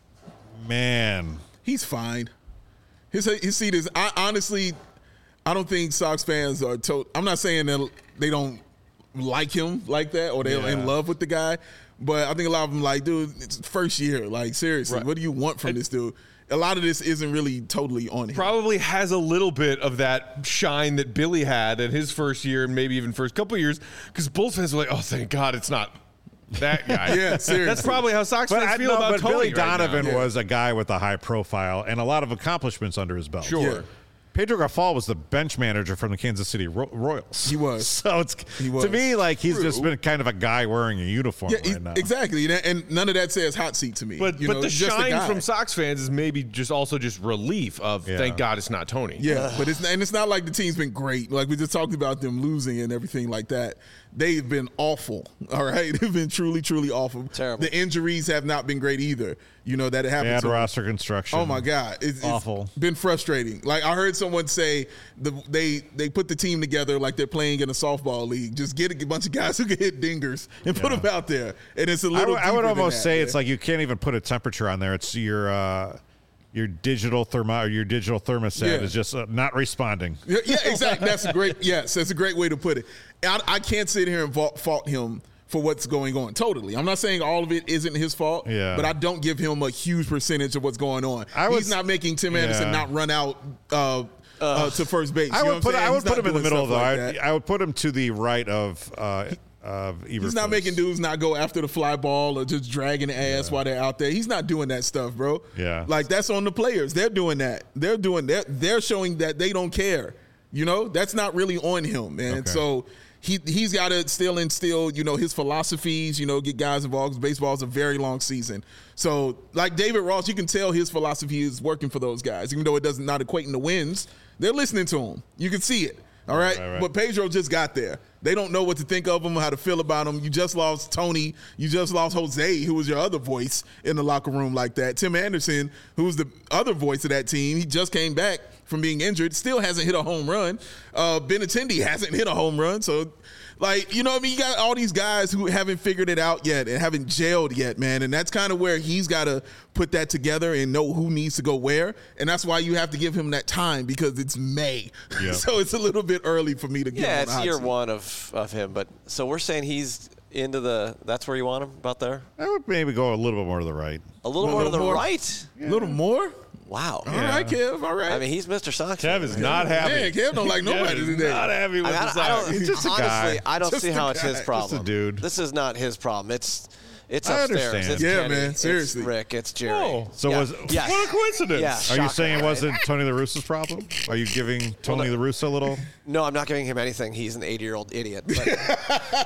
But man, He's fine. His his seat is. I honestly, I don't think Sox fans are. To, I'm not saying that they don't like him like that or they're Yeah. in love with the guy, but I think a lot of them like, dude, it's first year. Like seriously, Right. what do you want from this dude? A lot of this isn't really totally on him. Probably has a little bit of that shine that Billy had in his first year and maybe even first couple of years, because Bulls fans were like, "Oh, thank God, it's not that guy." Yeah, seriously. That's probably how Sox but fans I feel know, about but Tony Billy right now. Donovan Yeah. was a guy with a high profile and a lot of accomplishments under his belt. Sure. Yeah. Pedro Grafal was the bench manager from the Kansas City Ro- Royals. He was. So it's He was. to me like he's just True. been kind of a guy wearing a uniform Yeah, right he- now. exactly. And- And none of that says hot seat to me. But You but know, the it's just a shine guy. from Sox fans is maybe just also just relief of Yeah. thank God it's not Tony. Yeah, but it's and it's not like the team's been great. Like we just talked about them losing and everything like that. They've been awful. All right, they've been truly, truly awful. Terrible. The injuries have not been great either. You know that it happened. Bad to them. roster construction. Oh my God, it's, it's Awful. been frustrating. Like I heard someone say, the, they they put the team together like they're playing in a softball league. Just get a bunch of guys who can hit dingers and put Yeah. them out there. And it's a I little. would, I would deeper than almost that, say man. it's like you can't even put a temperature on there. It's your uh, your digital thermo or your digital thermostat Yeah. is just uh, not responding. Yeah, yeah, exactly. That's a great. Yes, that's a great way to put it. I, I can't sit here and fault, fault him for what's going on. Totally, I'm not saying all of it isn't his fault. Yeah. but I don't give him a huge percentage of what's going on. I He's was- not making Tim Anderson yeah. not run out uh, uh, to first base. I You know would what put I'm saying? I would He's put not him in the doing middle though. stuff I, like would- that. I would put him to the right of uh, of Eberflus. He's not making dudes not go after the fly ball or just dragging the ass while they're out there. He's not doing that stuff, bro. Yeah. Like that's on the players. They're doing that. They're doing that. They're showing that they don't care. You know, that's not really on him, man. Okay. So he he's got to still instill, you know, his philosophies. You know, get guys involved. 'Cause baseball is a very long season. So like David Ross, you can tell his philosophy is working for those guys, even though it doesn't not equating to wins. They're listening to him. You can see it. All right, Right, right. but Pedro just got there. They don't know what to think of him, how to feel about him. You just lost Tony. You just lost Jose, who was your other voice in the locker room like that. Tim Anderson, who's the other voice of that team, he just came back from being injured, still hasn't hit a home run. Uh, Benintendi hasn't hit a home run. So, like, you know what I mean? You got all these guys who haven't figured it out yet and haven't gelled yet, man. And that's kind of where he's got to put that together and know who needs to go where. And that's why you have to give him that time because it's May. Yeah. So it's a little bit early for me to get Yeah, on the it's hot year seat. one of, of him. But so we're saying he's into the. That's where you want him, about there. I would maybe go a little bit more to the right. A little A more to little the more? right. A little more? Wow. All right, Kev. All right. I mean, he's Mister Sox. Kev is not happy. Man, Kev don't like nobody Kev is today. Not happy with I, mean, the I, I Sox. don't, He's just a honestly, guy. I don't Just see a how it's guy. his Just a problem. dude. This is not his problem. It's it's I upstairs. understand. It's Yeah, Kenny, man, seriously. It's Rick. It's Jerry. Oh. So Yeah. was Yes. What a coincidence. Yeah. Are you Shocker, saying it right? wasn't Tony La Russa's problem? Are you giving Tony La Russa a little? No, I'm not giving him anything. He's an eighty-year-old idiot. But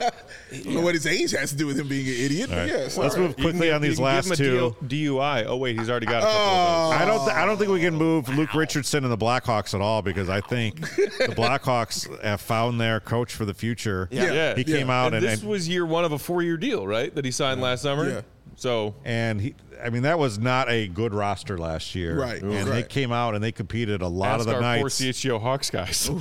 I don't know what his age has to do with him being an idiot. All But right. yes, Let's all right. move quickly on You these can last give him a two. D U I. Oh wait, he's already got a couple of those. I don't. Th- I don't think we can move Luke Richardson and the Blackhawks at all because I think the Blackhawks have found their coach for the future. Yeah. Yeah. He came Yeah. out And and, this and, was year one of a four-year deal, right? That he signed last summer. Yeah. So and he. I mean, that was not a good roster last year. Right. And Oof. they Right. came out and they competed a lot ask of the our poor nights. C H G O Hawks guys.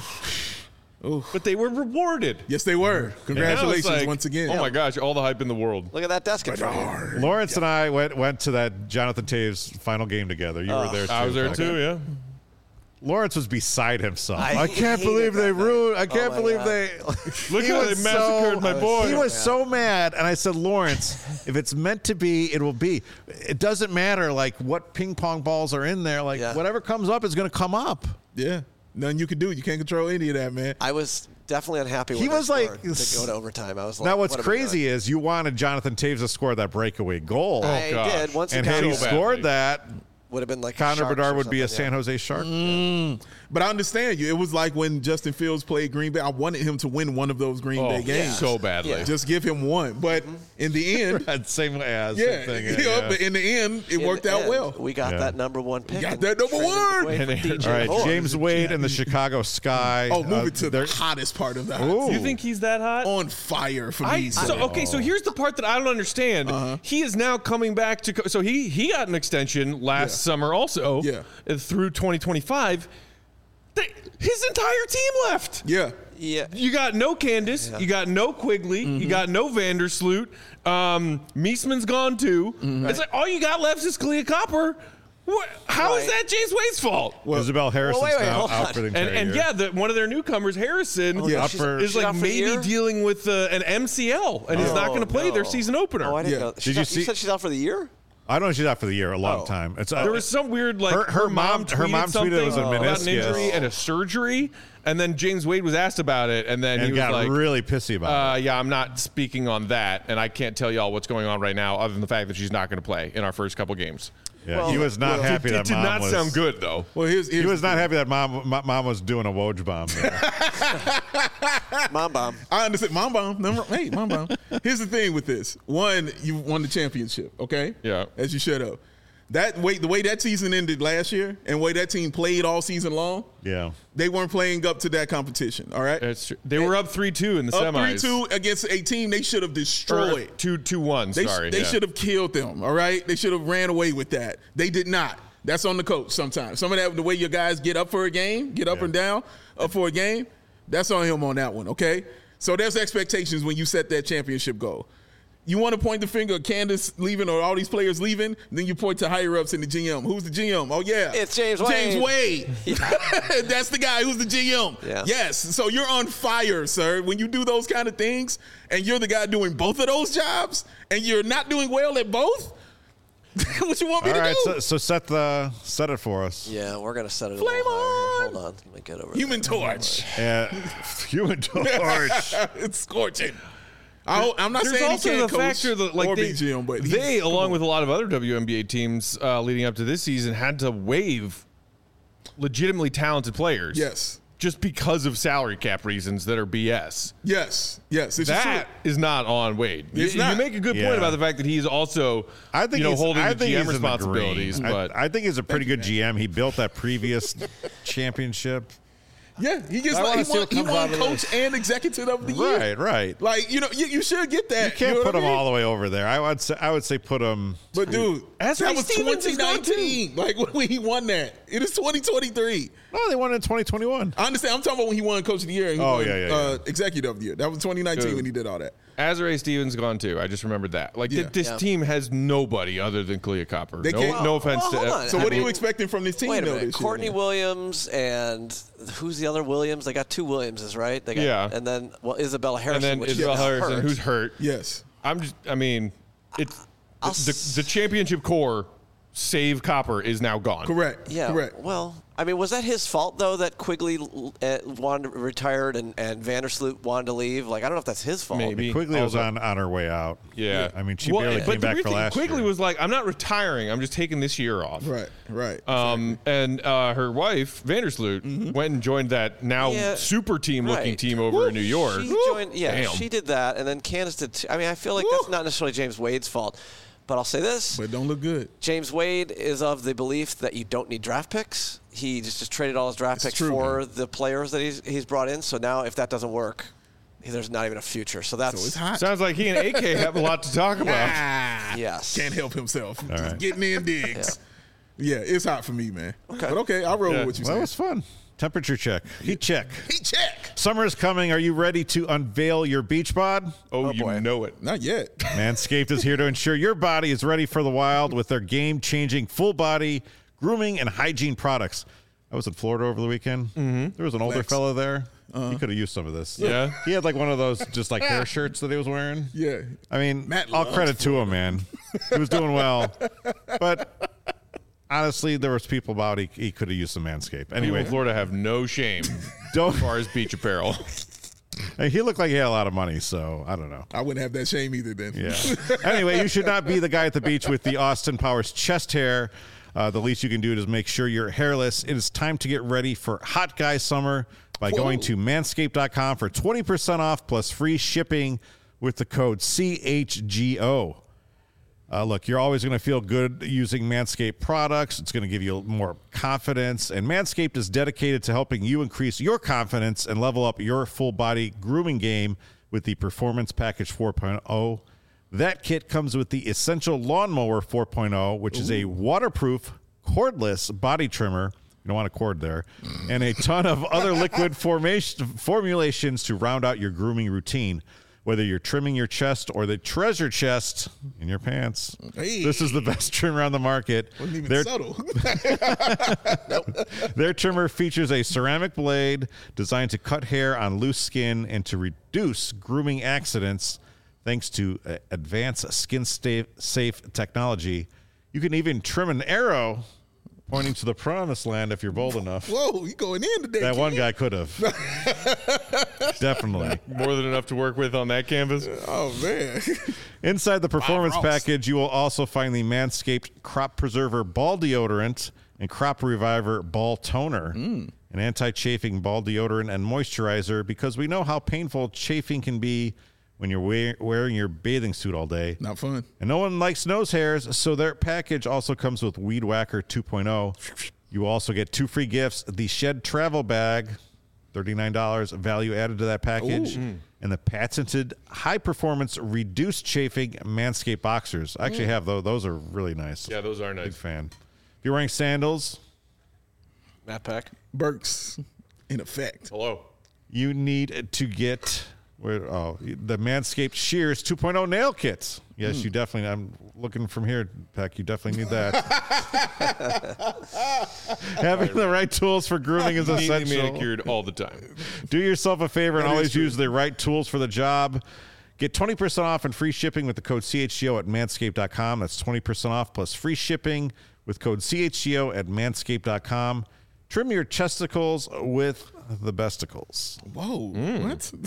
But they were rewarded. Yes, they were. And now it's Congratulations like, once again. Oh my gosh, all the hype in the world. look at that desk in front of you. Lawrence and I went went to that Jonathan Taves final game together. You were there too. I was there Okay. too, yeah. Lawrence was beside himself. I I, can't hated believe they that night. ruined. I can't my believe God. they. Look He how they was massacred my boy. He was so mad, and I said, Lawrence, if it's meant to be, it will be. It doesn't matter like what ping pong balls are in there. Like Yeah. whatever comes up is going to come up. Yeah. Nothing you can do. You can't control any of that, man. I was definitely unhappy when He they was like- scored to go to overtime. I was like, Now what's what are we crazy doing? is you wanted Jonathan Taves to score that breakaway goal, I gosh. did once and again. had he So scored badly. that, would have been like Connor Sharks Bedard or would be a something, San yeah. Jose Shark. Mm. But I understand you. It was like when Justin Fields played Green Bay. I wanted him to win one of those Green Oh, Bay games. so badly. Yeah. Just give him one. But in the end, That same as yeah, thing. yeah, yeah. but in the end, it In worked the out end, well. We got Yeah. that number one pick. Got and that number traded one. away for And- D J All right, Moore. James Wade and the Chicago Sky. Oh, move uh, it to they're- the hottest part of the hot Ooh. seat. You think he's that hot? On fire for I, me. so sir. okay, so here's the part that I don't understand. Uh-huh. He is now coming back to. Co- so he he got an extension last Yeah. summer also. Yeah. uh, Through twenty twenty-five. They, his entire team left. Yeah. Yeah. You got no Candace. Yeah. You got no Quigley. Mm-hmm. You got no Vandersloot. Um, Meesman's gone too. Mm-hmm. It's like all you got left is Kalia Copper. What, how is Right. that James Wade's fault? Isabel Harrison's wait, wait, now hold out on. for the And, entire and year. yeah, the, one of their newcomers, Harrison, Yeah. Up for- is She's like out for the maybe year? dealing with uh, an M C L and is not Oh, going to play their no. season opener. Oh, I didn't Yeah. know. Did She's you out- see- You said she's out for the year? I know she's out for the year, a long Oh. time. It's uh, There was some weird like Her- her, her mom mom- her tweeted mom tweeted something it was a about an meniscus. injury and a surgery, and then James Wade was asked about it, and then and he was got like, really pissy about uh, it. "Yeah, I'm not speaking on that, and I can't tell y'all what's going on right now, other than the fact that she's not going to play in our first couple games." Yeah, well, he was not well, happy It that did mom not was. sound good though. Well, here's, here's He was the not thing. happy that mom mom, mom was doing a Woj bomb. there. Mom bomb. I understand. Mom bomb. Number, hey, mom bomb. Here's the thing with this. One, you won the championship, okay? Yeah. As you should have. That way, the way that season ended last year, and the way that team played all season long, yeah. they weren't playing up to that competition. All right. It's true. They were up three two in the Up semis. three two against a team they should have Or destroyed. two two one. They, Sorry, they yeah. should have killed them. All right. They should have ran away with that. They did not. That's on the coach sometimes. Some of that, the way your guys get up for a game, get up Yeah. and down up for a game, that's on him on that one, okay? So there's expectations when you set that championship goal. You want to point the finger at Candace leaving or all these players leaving, then you point to higher-ups in the G M. Who's the G M? Oh, yeah. It's James James Wade. Wade. That's the guy who's the G M. Yeah. Yes. So you're on fire, sir. When you do those kind of things and you're the guy doing both of those jobs and you're not doing well at both, what you want me All to right, do? so, so set the set it for us. Yeah, we're gonna set it. Flame a little higher here. on! Hold on, let me get over. Human there. Torch. Uh, Human Torch. It's scorching. I, I'm not There's saying also he can't the coach factor that like or they, be G M, but he's- they come along on. with a lot of other W N B A teams uh, leading up to this season, had to waive legitimately talented players. Yes. Just because of salary cap reasons that are B S. Yes, yes, this is That true. is not on Wade. You, It's not. you make a good Yeah. point about the fact that he's also, I think you know, he's, holding I the think G M he's in the responsibilities. green. But I, I think he's a pretty good G M. He built that previous championship. Yeah, he gets I like wanna he see won, what he comes won out of coach this. and executive of the year. Right, right. Like you know, you, you should get that. You can't know put what him I mean? all the way over there. I would say I would say put him. But dude, Ezra that was Stevens is twenty gone, too. nineteen. Like when he won that, it is twenty twenty-three. No, they won in twenty twenty-one. I understand. I'm talking about when he won Coach of the Year. And he Oh, won, yeah, yeah, uh, yeah. Executive of the Year. That was twenty nineteen Dude. when he did all that. Azrae Stevens gone too. I just remembered that. Like th- Yeah. this Yeah. team has nobody other than Kalia Copper. They No, can't- no offense Well, to. hold on. So I what are you mean, expecting from this team Wait a though minute, this Courtney year? Williams and who's the other Williams? They got two Williamses, right? They got, Yeah. And then well, Isabella and Harrison, then which Isabel is Harrison, hurt. who's hurt. Yes. I'm just. I mean, it's I'll the, s- the championship core. Save Copper is now gone. Correct. Yeah. Correct. Well, I mean, was that his fault though that Quigley uh, wanted to retired and and Vandersloot wanted to leave? Like, I don't know if that's his fault. Maybe. Quigley was Also- on, on her way out. Yeah. I mean, she Well, barely but came the back weird for thing, last Quigley year. was like, I'm not retiring. I'm just taking this year off. Right. Right. Um, and uh, her wife, Vandersloot, went and joined that now Yeah, super team looking right. team over in New York. She joined. Yeah, Damn. she did that, and then Candace did. Too. I mean, I feel like that's not necessarily James Wade's fault, but I'll say this: but it don't look good. James Wade is of the belief that you don't need draft picks. He just, just traded all his draft It's picks true, for man. the players that he's he's brought in. So now, if that doesn't work, there's not even a future. So that's So it's hot. Sounds like he and A K have a lot to talk about. Ah, yes. can't help himself. Just right. getting in digs. yeah. it's hot for me, man. Okay. But okay, I'll roll Yeah. with what you Well, that said. was fun. Temperature check. Heat check. Heat check. Summer is coming. Are you ready to unveil your beach bod? Oh, you boy. know it. Not yet. Manscaped is here to ensure your body is ready for the wild with their game-changing full body grooming and hygiene products. I was in Florida over the weekend. Mm-hmm. There was an older Flex. fella there. He could have used some of this. Yeah? He had like one of those just like hair shirts that he was wearing. Yeah. I mean, Matt all loves credit to him, man. He was doing well. But honestly, there was people about he, he could have used some Manscaped. People Anyway, in Florida have no shame don't. as far as beach apparel. Hey, he looked like he had a lot of money, so I don't know. I wouldn't have that shame either then. Yeah. Anyway, you should not be the guy at the beach with the Austin Powers chest hair. Uh, the least you can do is make sure you're hairless. It is time to get ready for hot guy summer by Whoa. going to manscaped dot com for twenty percent off plus free shipping with the code C H G O. Uh, look, you're always going to feel good using Manscaped products. It's going to give you more confidence. And Manscaped is dedicated to helping you increase your confidence and level up your full body grooming game with the Performance Package four point oh. That kit comes with the Essential Lawnmower four point oh, which Ooh. is a waterproof, cordless body trimmer. You don't want a cord there. And a ton of other liquid formation, formulations to round out your grooming routine. Whether you're trimming your chest or the treasure chest in your pants, hey. This is the best trimmer on the market. Wasn't even their, subtle. nope. Their trimmer features a ceramic blade designed to cut hair on loose skin and to reduce grooming accidents thanks to uh, advanced skin-safe technology. You can even trim an arrow pointing to the promised land if you're bold enough. Whoa, you going in today, That kid. one guy could have. Definitely. More than enough to work with on that canvas. Oh, man. Inside the Performance Bob Ross. Package, you will also find the Manscaped Crop Preserver Ball Deodorant and Crop Reviver Ball Toner, mm. an anti-chafing ball deodorant and moisturizer, because we know how painful chafing can be when you're wear- wearing your bathing suit all day. Not fun. And no one likes nose hairs, so their package also comes with Weed Whacker two point oh. You will also get two free gifts, the Shed Travel Bag, thirty-nine dollars value added to that package, Ooh. and the patented high-performance reduced chafing Manscaped boxers. I actually have those. Those are really nice. Yeah, those are nice. Big fan. If you're wearing sandals, Matt Peck. Burks, in effect. Hello. You need to get... Where, oh, the Manscaped Shears two point oh nail kits. Yes, mm. you definitely. I'm looking from here, Peck. You definitely need that. Having the right tools for grooming is essential. Manicured all the time. Do yourself a favor and That always use the right tools for the job. Get twenty percent off and free shipping with the code C H G O at manscaped dot com. That's twenty percent off plus free shipping with code C H G O at manscaped dot com. Trim your chesticles with the besticles. Whoa, mm.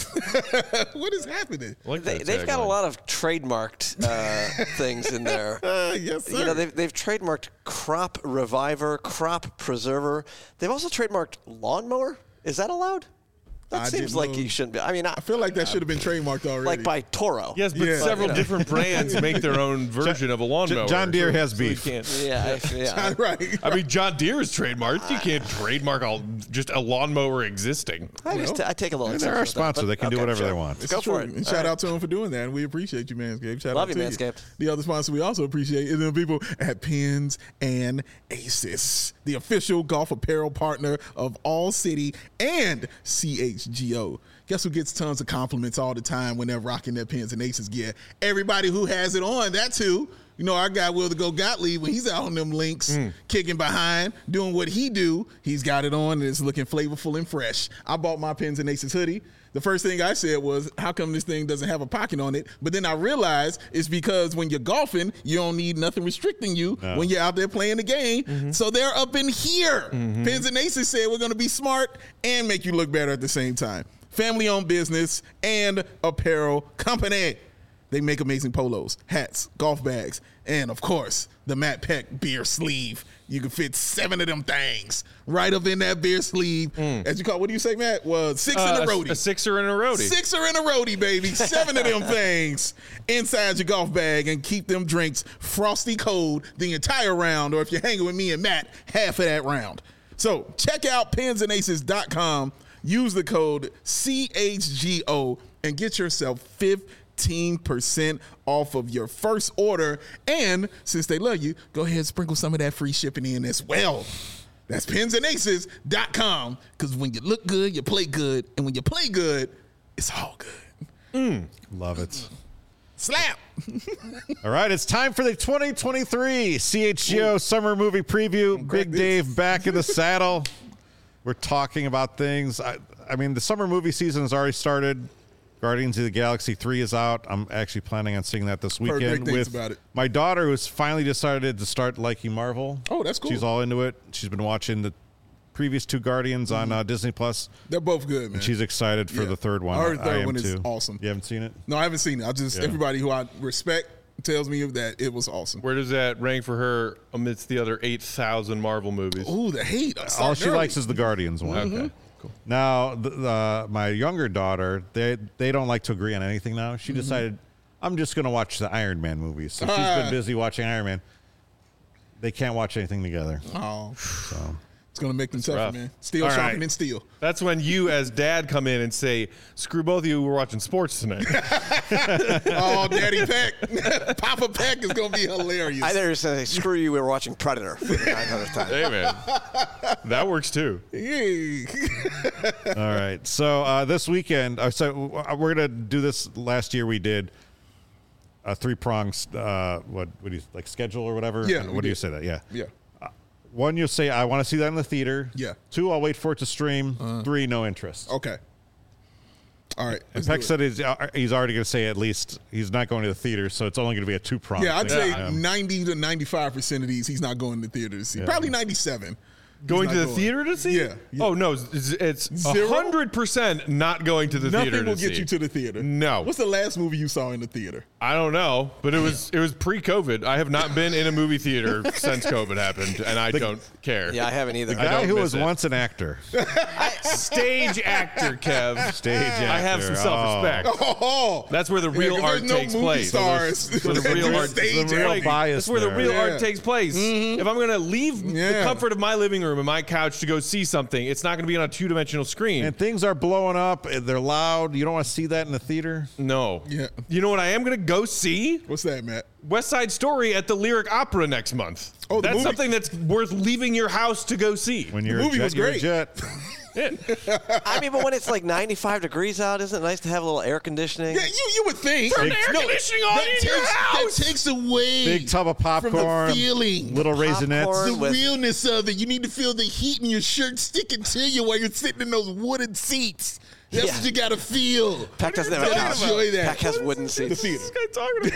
what? What is happening? Like they, they've got line. a lot of trademarked uh, things in there. Uh, yes, sir. You know, they've, they've trademarked Crop Reviver, Crop Preserver. They've also trademarked Lawnmower. Is that allowed? That I seems like you shouldn't be. I mean, I, I feel like that should have been trademarked already. Like by Toro. Yes, but Yeah. several But, you know. different brands make their own version of a lawnmower. John Deere so- has so beef. you can't- Yeah, I, yeah. right. I mean, John Deere is trademarked. You can't trademark all, just a lawnmower existing. I, just t- I take a little. They're our sponsor. They can do whatever they want. It's Go true. for it. And All shout right. out to him for doing that. And we appreciate you, Manscaped. Shout Love out you, to Manscaped. The other sponsor we also appreciate is the people at Pins and Aces, the official golf apparel partner of All City and C H G O. Guess who gets tons of compliments all the time when they're rocking their Pins and Aces gear? Everybody who has it on, that's who. You know, our guy Will the Go Gottlieb, when he's out on them links, mm. kicking behind, doing what he do, he's got it on and it's looking flavorful and fresh. I bought my Pins and Aces hoodie. The first thing I said was, how come this thing doesn't have a pocket on it? But then I realized it's because when you're golfing, you don't need nothing restricting you no. when you're out there playing the game. Mm-hmm. So they're up in here. Mm-hmm. Pins and Aces said we're going to be smart and make you look better at the same time. Family-owned business and apparel company. They make amazing polos, hats, golf bags, and, of course, the Matt Peck beer sleeve. You can fit seven of them things right up in that beer sleeve. Mm. As you call it, what do you say, Matt? Well, six uh, in a roadie. A sixer in a roadie. Sixer in a roadie, baby. Seven of them things inside your golf bag and keep them drinks frosty cold the entire round, or if you're hanging with me and Matt, half of that round. So check out pins and aces dot com. Use the code C H G O and get yourself fifteen percent off of your first order. And since they love you, go ahead and sprinkle some of that free shipping in as well. That's pins and aces dot com, because when you look good, you play good. And when you play good, it's all good. Mm. Love it. Slap. All right, it's time for the twenty twenty-three C H G O Ooh. Summer Movie Preview. Big Dave back in the saddle. We're talking about things. I, I mean, the summer movie season has already started. Guardians of the Galaxy three is out. I'm actually planning on seeing that this weekend. Heard great things with about it. My daughter, who's finally decided to start liking Marvel. Oh, that's cool. She's all into it. She's been watching the previous two Guardians mm-hmm. on uh, Disney Plus. They're both good, man. And she's excited for yeah. the third one. I heard the third I am one is too. awesome. You haven't seen it? No, I haven't seen it. I just, yeah. everybody who I respect tells me that it was awesome. Where does that rank for her amidst the other eight thousand Marvel movies? Ooh, the hate. All she likes is the Guardians one. Okay. Cool. Now, the, the, my younger daughter, they they don't like to agree on anything now. She Mm-hmm. decided, I'm just going to watch the Iron Man movies. So she's Ah. been busy watching Iron Man. They can't watch anything together. Oh, So it's gonna make them tougher, rough. man. Steel All sharpening right. steel. That's when you, as dad, come in and say, "Screw both of you. We're watching sports tonight." Oh, Daddy Peck, Papa Peck is gonna be hilarious. I never say, screw you, we were watching Predator for the nine hundredth time. Hey, man, that works too. Yay. all right. So uh, this weekend, uh, so uh, we're gonna do this. Last year we did a three prongs. Uh, what what do you like schedule or whatever? Yeah, What we do you did. say that? Yeah. Yeah. One, you'll say I want to see that in the theater. Yeah. Uh-huh. Two, I'll wait for it to stream. Three, no interest. Okay. All right. And let's Peck do it. said he's, uh, he's already going to say at least he's not going to the theater, so it's only going to be a two prong. Yeah, I'd say Yeah. ninety to ninety-five percent of these he's not going to the theater to see. Probably ninety-seven. Going He's to not the going. theater to see? Yeah, yeah. Oh no, it's it's Zero? hundred percent not going to the Nothing theater will to get see. you to the theater. No. What's the last movie you saw in the theater? I don't know, but it was it was pre-COVID. I have not been in a movie theater since COVID happened, and I don't care. Yeah, I haven't either. The guy don't who miss was it. once an actor. Stage actor, Kev. Stage actor. I have some self-respect. Oh, That's where the Yeah, real 'cause art there's no takes movie place. stars. That's where the real There's art stage takes The real place. bias That's where the there. real Yeah. art takes place. If I'm going to leave the Yeah. comfort of my living room and my couch to go see something, it's not going to be on a two-dimensional screen. And things are blowing up. They're loud. You don't want to see that in the theater. no. Yeah. You know what I am going to go see? What's that, Matt? West Side Story at the Lyric Opera next month. Oh, the that's movie- something that's worth leaving your house to go see. When you're movie a jet, was you're a great. jet. I mean, but when it's like ninety-five degrees out, isn't it nice to have a little air conditioning? Yeah, you you would think. Turn the air conditioning on that in takes, your house. That takes away Big tub of popcorn. from the feeling. Little raisinets. Popcorn. the with- realness of it. You need to feel the heat in your shirt sticking to you while you're sitting in those wooden seats. That's Yeah. what you got to feel. Peck doesn't have a Don't couch. enjoy that. Peck has wooden The seats. theater. What is this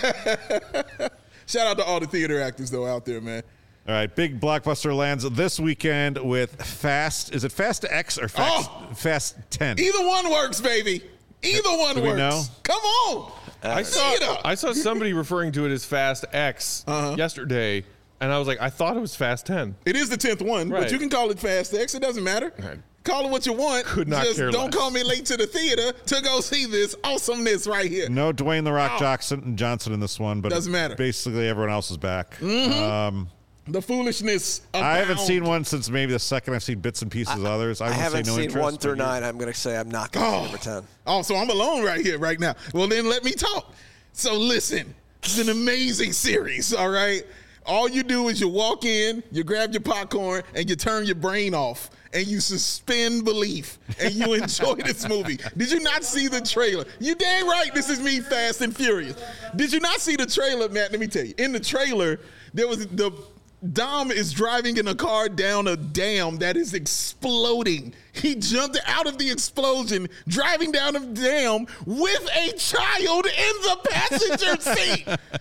guy talking about? Shout out to all the theater actors though out there, man. All right, big blockbuster lands this weekend with Fast. Is it Fast X or Fast, Oh! Fast ten? Either one works, baby. Either one Do we works. know? Come on. I See it saw up. I saw somebody referring to it as Fast X Uh-huh. yesterday, and I was like, I thought it was Fast ten. It is the tenth one, Right. but you can call it Fast X. It doesn't matter. Right. Call it what you want. Could not Just care don't less. call me late to the theater to go see this awesomeness right here. No Dwayne the Rock Oh. Johnson Johnson in this one, but Doesn't matter. Basically, everyone else is back. Um, The foolishness. I haven't abound. seen one since maybe the second. I've seen bits and pieces of others. I, I would haven't say no seen interest, one through but you- nine. I'm going to say I'm not going to Oh. see number ten. Oh, so I'm alone right here, right now. Well, then let me talk. So listen, it's an amazing series, all right? All you do is you walk in, you grab your popcorn, and you turn your brain off, and you suspend belief, and you enjoy this movie. Did you not see the trailer? You dang right, this is me, Fast and Furious. Did you not see the trailer, Matt? Let me tell you. In the trailer, there was the Dom is driving in a car down a dam that is exploding. He jumped out of the explosion, driving down a dam with a child in the passenger seat.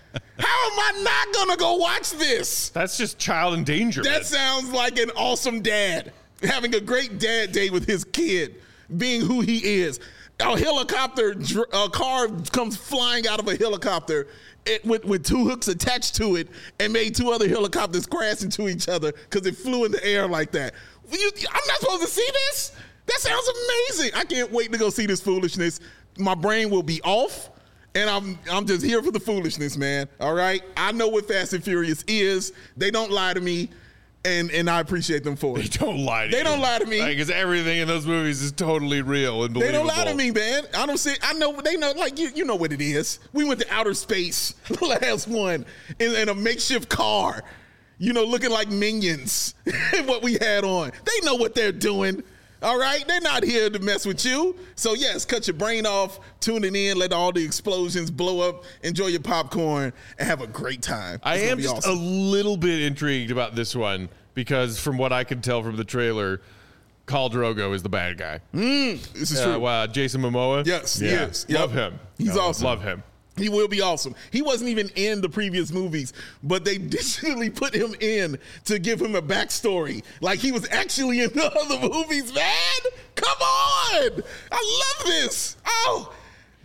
How am I not gonna go watch this? That's just child endangerment. That sounds like an awesome dad having a great dad day with his kid, being who he is. A helicopter, dr- a car comes flying out of a helicopter it, with, with two hooks attached to it and made two other helicopters crash into each other because it flew in the air like that. You, I'm not supposed to see this? That sounds amazing. I can't wait to go see this foolishness. My brain will be off. And I'm I'm just here for the foolishness, man. All right? I know what Fast and Furious is. They don't lie to me, and, and I appreciate them for They it. don't lie to They you. don't lie to me. Because everything in those movies is totally real and They believable. don't lie to me, man. I don't see. I know. They know. Like you, you know what it is. We went to outer space, the last one, in, in a makeshift car. You know, looking like minions. What we had on. They know what they're doing. All right, they're not here to mess with you. So yes, cut your brain off, tune it in, let all the explosions blow up, enjoy your popcorn, and have a great time. I It's gonna am be just awesome. a little bit intrigued about this one because from what I can tell from the trailer, Khal Drogo is the bad guy. This is Uh, true. wow, Jason Momoa. Yes, he yeah. is. Yep. Love him. He's Yeah, awesome. Love him. He will be awesome. He wasn't even in the previous movies, but they digitally put him in to give him a backstory. Like he was actually in the other movies, man. Come on. I love this. Oh,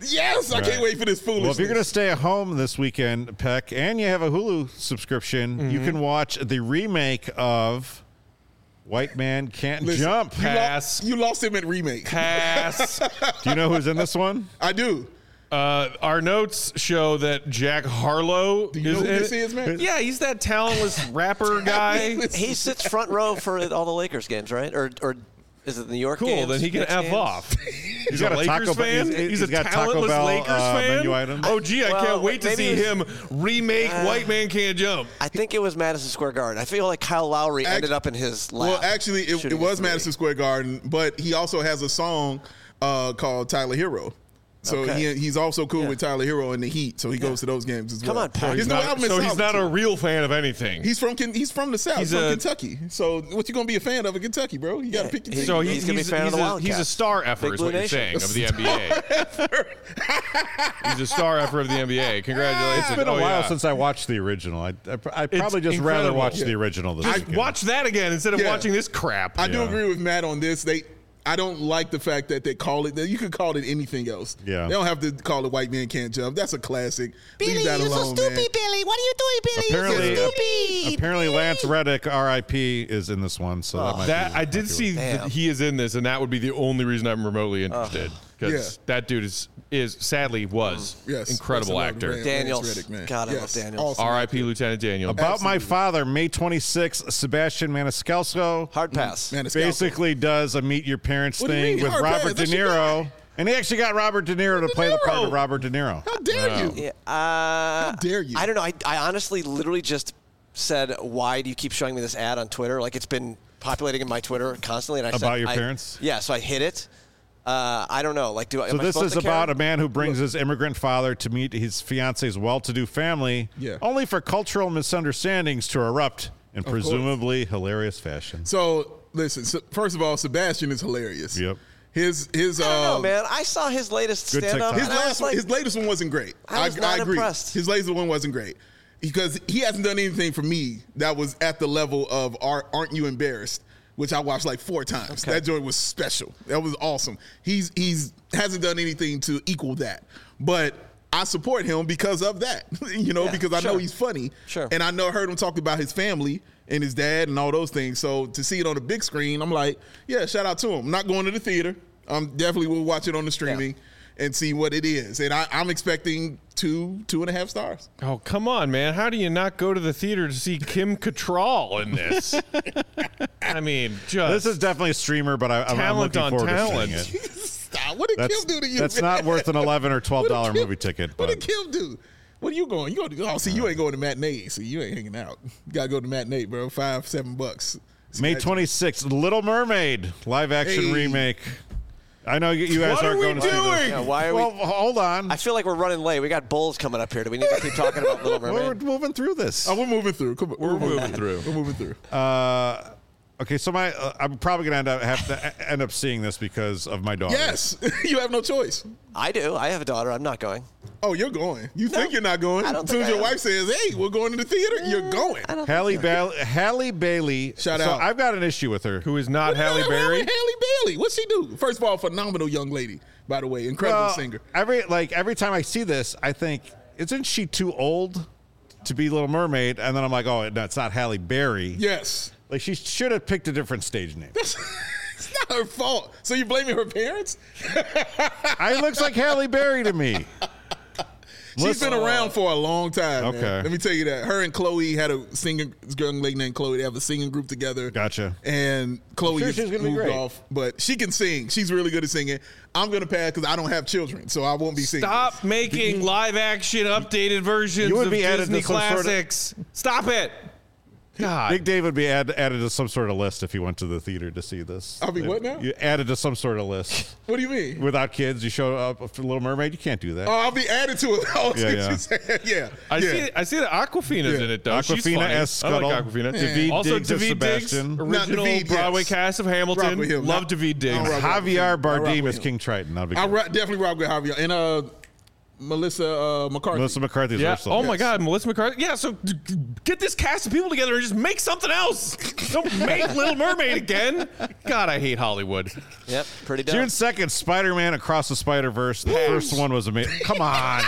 Yes, I Right. can't wait for this foolishness. Well, if you're going to stay at home this weekend, Peck, and you have a Hulu subscription, Mm-hmm. you can watch the remake of White Man Can't Listen, Jump. you, lo- Pass. you lost him at remake. Pass. Do you know who's in this one? I do. Uh, our notes show that Jack Harlow Do you is know who in this it. is, man? Yeah, he's that talentless rapper guy. He sits front row for all the Lakers games, right? Or or is it the New York Cool, games? then he can Knicks F games? off. He's, got a a Lakers Taco Bell- fan. he's- He's, he's a got Taco talentless Bell, Lakers uh, fan. menu items. Oh, gee, I Well, can't wait to maybe see it was- him remake Uh, White Man Can't Jump. I think it was Madison Square Garden. I feel like Kyle Lowry Act- ended up in his lap. Well, actually, it, shooting it was a three. Madison Square Garden, but he also has a song uh, called Tyler Hero. So Okay. he, he's also cool Yeah. with Tyler Hero and the Heat. So he goes to those games as Come well. on, Pat. His He's new not- album is so he's out, not too. a real fan of anything. He's from Ken- he's from the South, He's he's from a- Kentucky. So what you gonna be a fan of in Kentucky, bro? You gotta Yeah, pick your he- team. so he's he's, gonna be a he's, fan of he's the a, he's a Wildcats. star effer, Big is Blue what you're Nation. saying, of the N B A. He's a star effer of the N B A. Congratulations. It's been a Oh, while yeah. since I watched the original. I, I, I'd probably just rather incredible. watch Yeah. the original this Just weekend. watch that again instead of Yeah. watching this crap. I do Yeah. agree with Matt on this. They, I don't like the fact that they call it. That you could call it anything else. Yeah. They don't have to call it White Man Can't Jump. That's a classic. Leave that you're so alone, stupid, man. Billy. What are you doing, Billy? Apparently, you're so stupid. apparently Lance Reddick, R I P, is in this one. So that might That be, I did see Damn. that he is in this, and that would be the only reason I'm remotely interested. Because Yeah. that dude is is sadly was Yes, incredible that's a lot of actor. Lance Daniels. Reddick, man. God, I love Yes, Daniels. awesome. R I P Lieutenant Daniel. About My Absolutely. Father, May twenty-sixth, Sebastian Maniscalco Hard pass. Man, it's basically does a Meet Your Parents What do you thing mean? with Hard Robert pass? De That's your Niro. And he actually got Robert De Niro to play the part Niro. of Robert De Niro. How dare Wow. you? Yeah, uh, How dare you? I don't know. I, I honestly literally just said, why do you keep showing me this ad on Twitter? Like, it's been populating in my Twitter constantly. And I said, About your I- parents? Yeah, so I hit it. Uh, I don't know. Like, do I? So am I this supposed is to care? about a man who brings his immigrant father to meet his fiance's well-to-do family, Yeah. only for cultural misunderstandings to erupt in presumably hilarious fashion. So listen. So, first of all, Sebastian is hilarious. Yep. His his I don't know, uh, man. I saw his latest Good stand-up. TikTok. his and I was last like, his latest one wasn't great. I was not agree. impressed. His latest one wasn't great because he hasn't done anything for me that was at the level of Are, Aren't You Embarrassed, which I watched like four times. Okay. That joint was special. That was awesome. He's he's hasn't done anything to equal that, but I support him because of that. you know, Yeah, because I know sure. he's funny. Sure. And I know I heard him talk about his family and his dad and all those things. So to see it on the big screen, I'm like, yeah, shout out to him. I'm not going to the theater. I'm definitely will watch it on the streaming and see what it is. And I, I'm expecting two, two and a half stars. Oh, come on, man. How do you not go to the theater to see Kim Cattrall in this? I mean, just This is definitely a streamer, but I, I'm, I'm Talent looking on forward talent. to seeing it. Stop. What did That's, Kim do to you? that's man? not worth an eleven or twelve What did dollar Kim- movie ticket. What But did Kim do? What are you going? You go? Oh, see, you ain't going to matinee. So you ain't hanging out. You gotta go to matinee, bro. Five, seven bucks. May twenty-sixth, Little Mermaid live action Hey. remake. I know you you guys What aren't are we going to see this. doing? Yeah, why are Well, we? hold on. I feel like we're running late. We got Bulls coming up here. Do we need to keep talking about Little We're Mermaid? moving through this. Oh, we're moving through. Come on. We're moving through. We're moving through. Uh, okay, so my uh, I'm probably gonna end up have to e- end up seeing this because of my daughter. Yes, you have no choice. I do. I have a daughter. I'm not going. Oh, you're going. You No, think you're not going? I don't As soon think as I your am. wife says, "Hey, we're going to the theater," you're going. I don't. Halle, think so. ba- Halle Bailey. Shout so out. I've got an issue with her. who is not What the Halle hell Berry. with Halle Bailey. What's she do? First of all, phenomenal young lady, by the way, incredible Well, singer. Every like every time I see this, I think, isn't she too old to be Little Mermaid? And then I'm like, oh, no, it's not Halle Berry. Yes, Like she should have picked a different stage name. it's not her fault. So you blaming her parents? I looks like Halle Berry to me. She's Listen- been around for a long time. man. Okay. Let me tell you that. Her and Chloe had a singing this young lady named Chloe. They have a singing group together. Gotcha. And Chloe sure just she's gonna be moved great. off, but she can sing. She's really good at singing. I'm gonna pass because I don't have children, so I won't be singing. Stop making live action updated versions You would of be added Disney to some sort of- classics. Stop it. God. Big Dave would be add, added to some sort of list if he went to the theater to see this. I'll be what now? You added to some sort of list. What do you mean? Without kids, you show up for Little Mermaid. You can't do that. Oh, I'll be added to it. Oh, Yeah, yeah, yeah. yeah. yeah. I yeah. see. I see that Aquafina's Yeah. in it though. She's Aquafina funny. as I Scuttle. like Aquafina. Daveed Also, Diggs as Daveed Diggs, Sebastian. original Daveed, Broadway yes. cast of Rock Hamilton. with him. Love Not- Daveed Diggs. I'll rock with Javier him. I'll rock Bardem with as him. King Triton. That'll be I good. ra- definitely rock with Javier. And uh, Melissa uh, McCarthy. Melissa McCarthy's Yeah. Ursula. Oh my God, Melissa McCarthy. Yeah. So d- d- get this cast of people together and just make something else. Don't make Little Mermaid again. God, I hate Hollywood. Yep, pretty dope. June second, Spider-Man Across the Spider-Verse. The first one was amazing. Come on.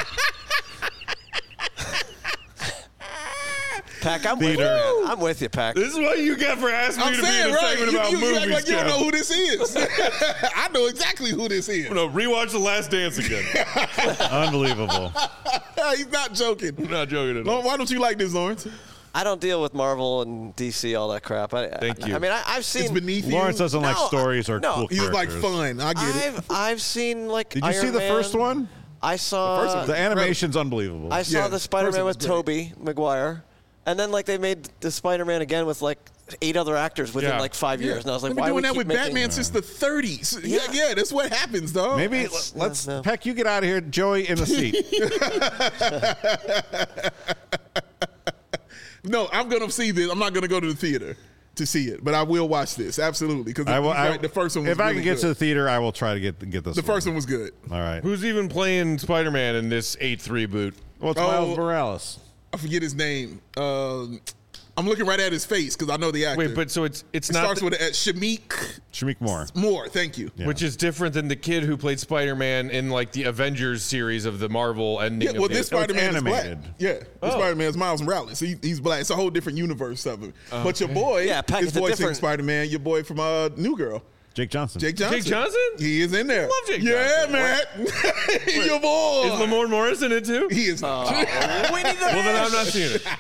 Pack, I'm with you. Theater. Man. I'm with you, Pack. This is what you get for asking I'm me to be saying, in a right? segment You, about you, you act movies. like you don't Kev. know who this is. I know exactly who this is. I'm gonna rewatch The Last Dance again. Unbelievable. He's not joking. I'm not joking at all. Why don't you like this, Lawrence? I don't deal with Marvel and D C, all that crap. I, Thank I, you. I mean, I, I've seen. It's beneath Lawrence you. doesn't like No, stories or no. cool He's like characters. fun. I get it. I've I've seen like. Did you Iron see the Man. first one? I saw. The first one The animation's unbelievable. I saw Yeah, the first Spider-Man one was with Tobey Maguire, and then like they made the Spider-Man again with like eight other actors within Yeah. like five Yeah. years, and I was like, They've been why doing we that keep with making- Batman since the thirties. Yeah, Yeah. yeah, that's what happens, dog. Maybe That's- let's no, no. Peck, you get out of here. Joey in the seat. No, I'm gonna see this. I'm not gonna go to the theater to see it, but I will watch this absolutely because I will. I, right, the first one was if I really can get good. to the theater, I will try to get get this. The first one was good. All right. Who's even playing Spider-Man in this eighth reboot? Well, it's Oh. Miles Morales. I forget his name. Um, I'm looking right at his face because I know the actor. Wait, but so it's it's it not starts the- with a, Shamik Shamik Moore. Moore. Thank you. Yeah. which is different than the kid who played Spider-Man in like the Avengers series of the Marvel ending. Yeah, well, of this the, Spider-Man is black. animated. Yeah, this Oh. Spider-Man is Miles Morales. He, he's black. It's a whole different universe of him. But your boy Yeah, Pac- is it's a voicing different- Spider-Man. Your boy from uh, New Girl, Jake Johnson. Jake Johnson. Jake Johnson? He is in there. love Jake yeah, Johnson. Matt. your boy. Is Lamorne Morris in it too? He is not. We need the Well, then I'm not seeing it.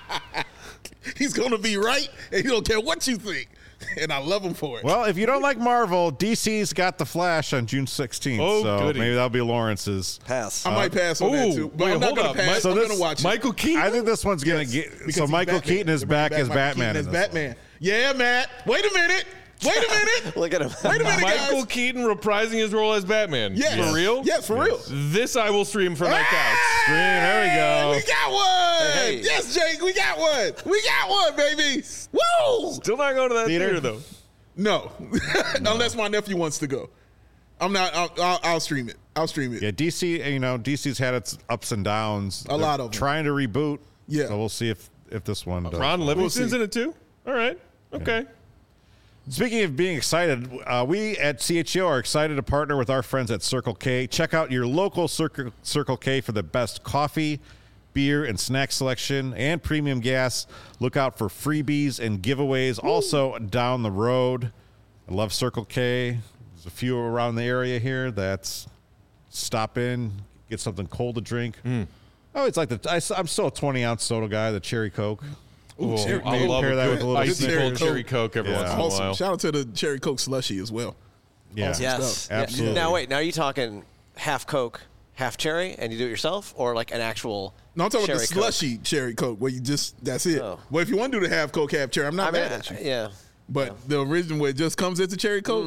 He's gonna be right, and he don't care what you think. And I love him for it. Well, if you don't like Marvel, D C's got The Flash on June sixteenth. Oh, so goody. maybe that'll be Lawrence's. pass. I might pass on that Ooh, too, but wait, I'm not hold gonna up. pass. Mi- so I'm this- gonna watch it. Michael Keaton. I think this one's gonna Yes, get. because So he's Michael Batman. Keaton is They're back bringing as Michael Batman. Keaton in as this Batman. Yeah, Matt. Wait a minute. Wait a minute. Look at him. Wait a minute, Michael guys. Keaton reprising his role as Batman. Yes. For real? Yes, for real. This I will stream from my couch. Stream, there we go. We got one. Hey. Yes, Jake, we got one. We got one, baby. Woo! Still not going to that Theater? theater, though. No, unless my nephew wants to go. I'm not. I'll, I'll, I'll stream it. I'll stream it. Yeah, D C. You know, D C's had its ups and downs. A lot of them. trying to reboot. Yeah. So we'll see if if this one does. Ron Livingston's see. in it too? All right. Okay. Speaking of being excited, uh, we at C H E O are excited to partner with our friends at Circle K. Check out your local Circle, Circle K for the best coffee, beer, and snack selection and premium gas. Look out for freebies and giveaways also down the road. I love Circle K. There's a few around the area here that's stop in, get something cold to drink. Oh, it's like the I, I'm still a twenty ounce soda guy, the cherry Coke. Ooh, Well, cherry- I maybe love pair a that good with a little icy cherry cold Coke. cherry Coke every Yeah. once in a Awesome. while. Shout out to the cherry Coke slushy as well. Yeah. Awesome. Yes. stuff. Yeah. Absolutely. Now wait. Now are you talking half Coke, half cherry, and you do it yourself, or like an actual? No, I'm talking about the cherry Coke? slushy cherry Coke where you just that's it. Oh. Well, if you want to do the half Coke, half cherry, I'm not I mean, mad at you. yeah. But the original where it just comes as a cherry Coke.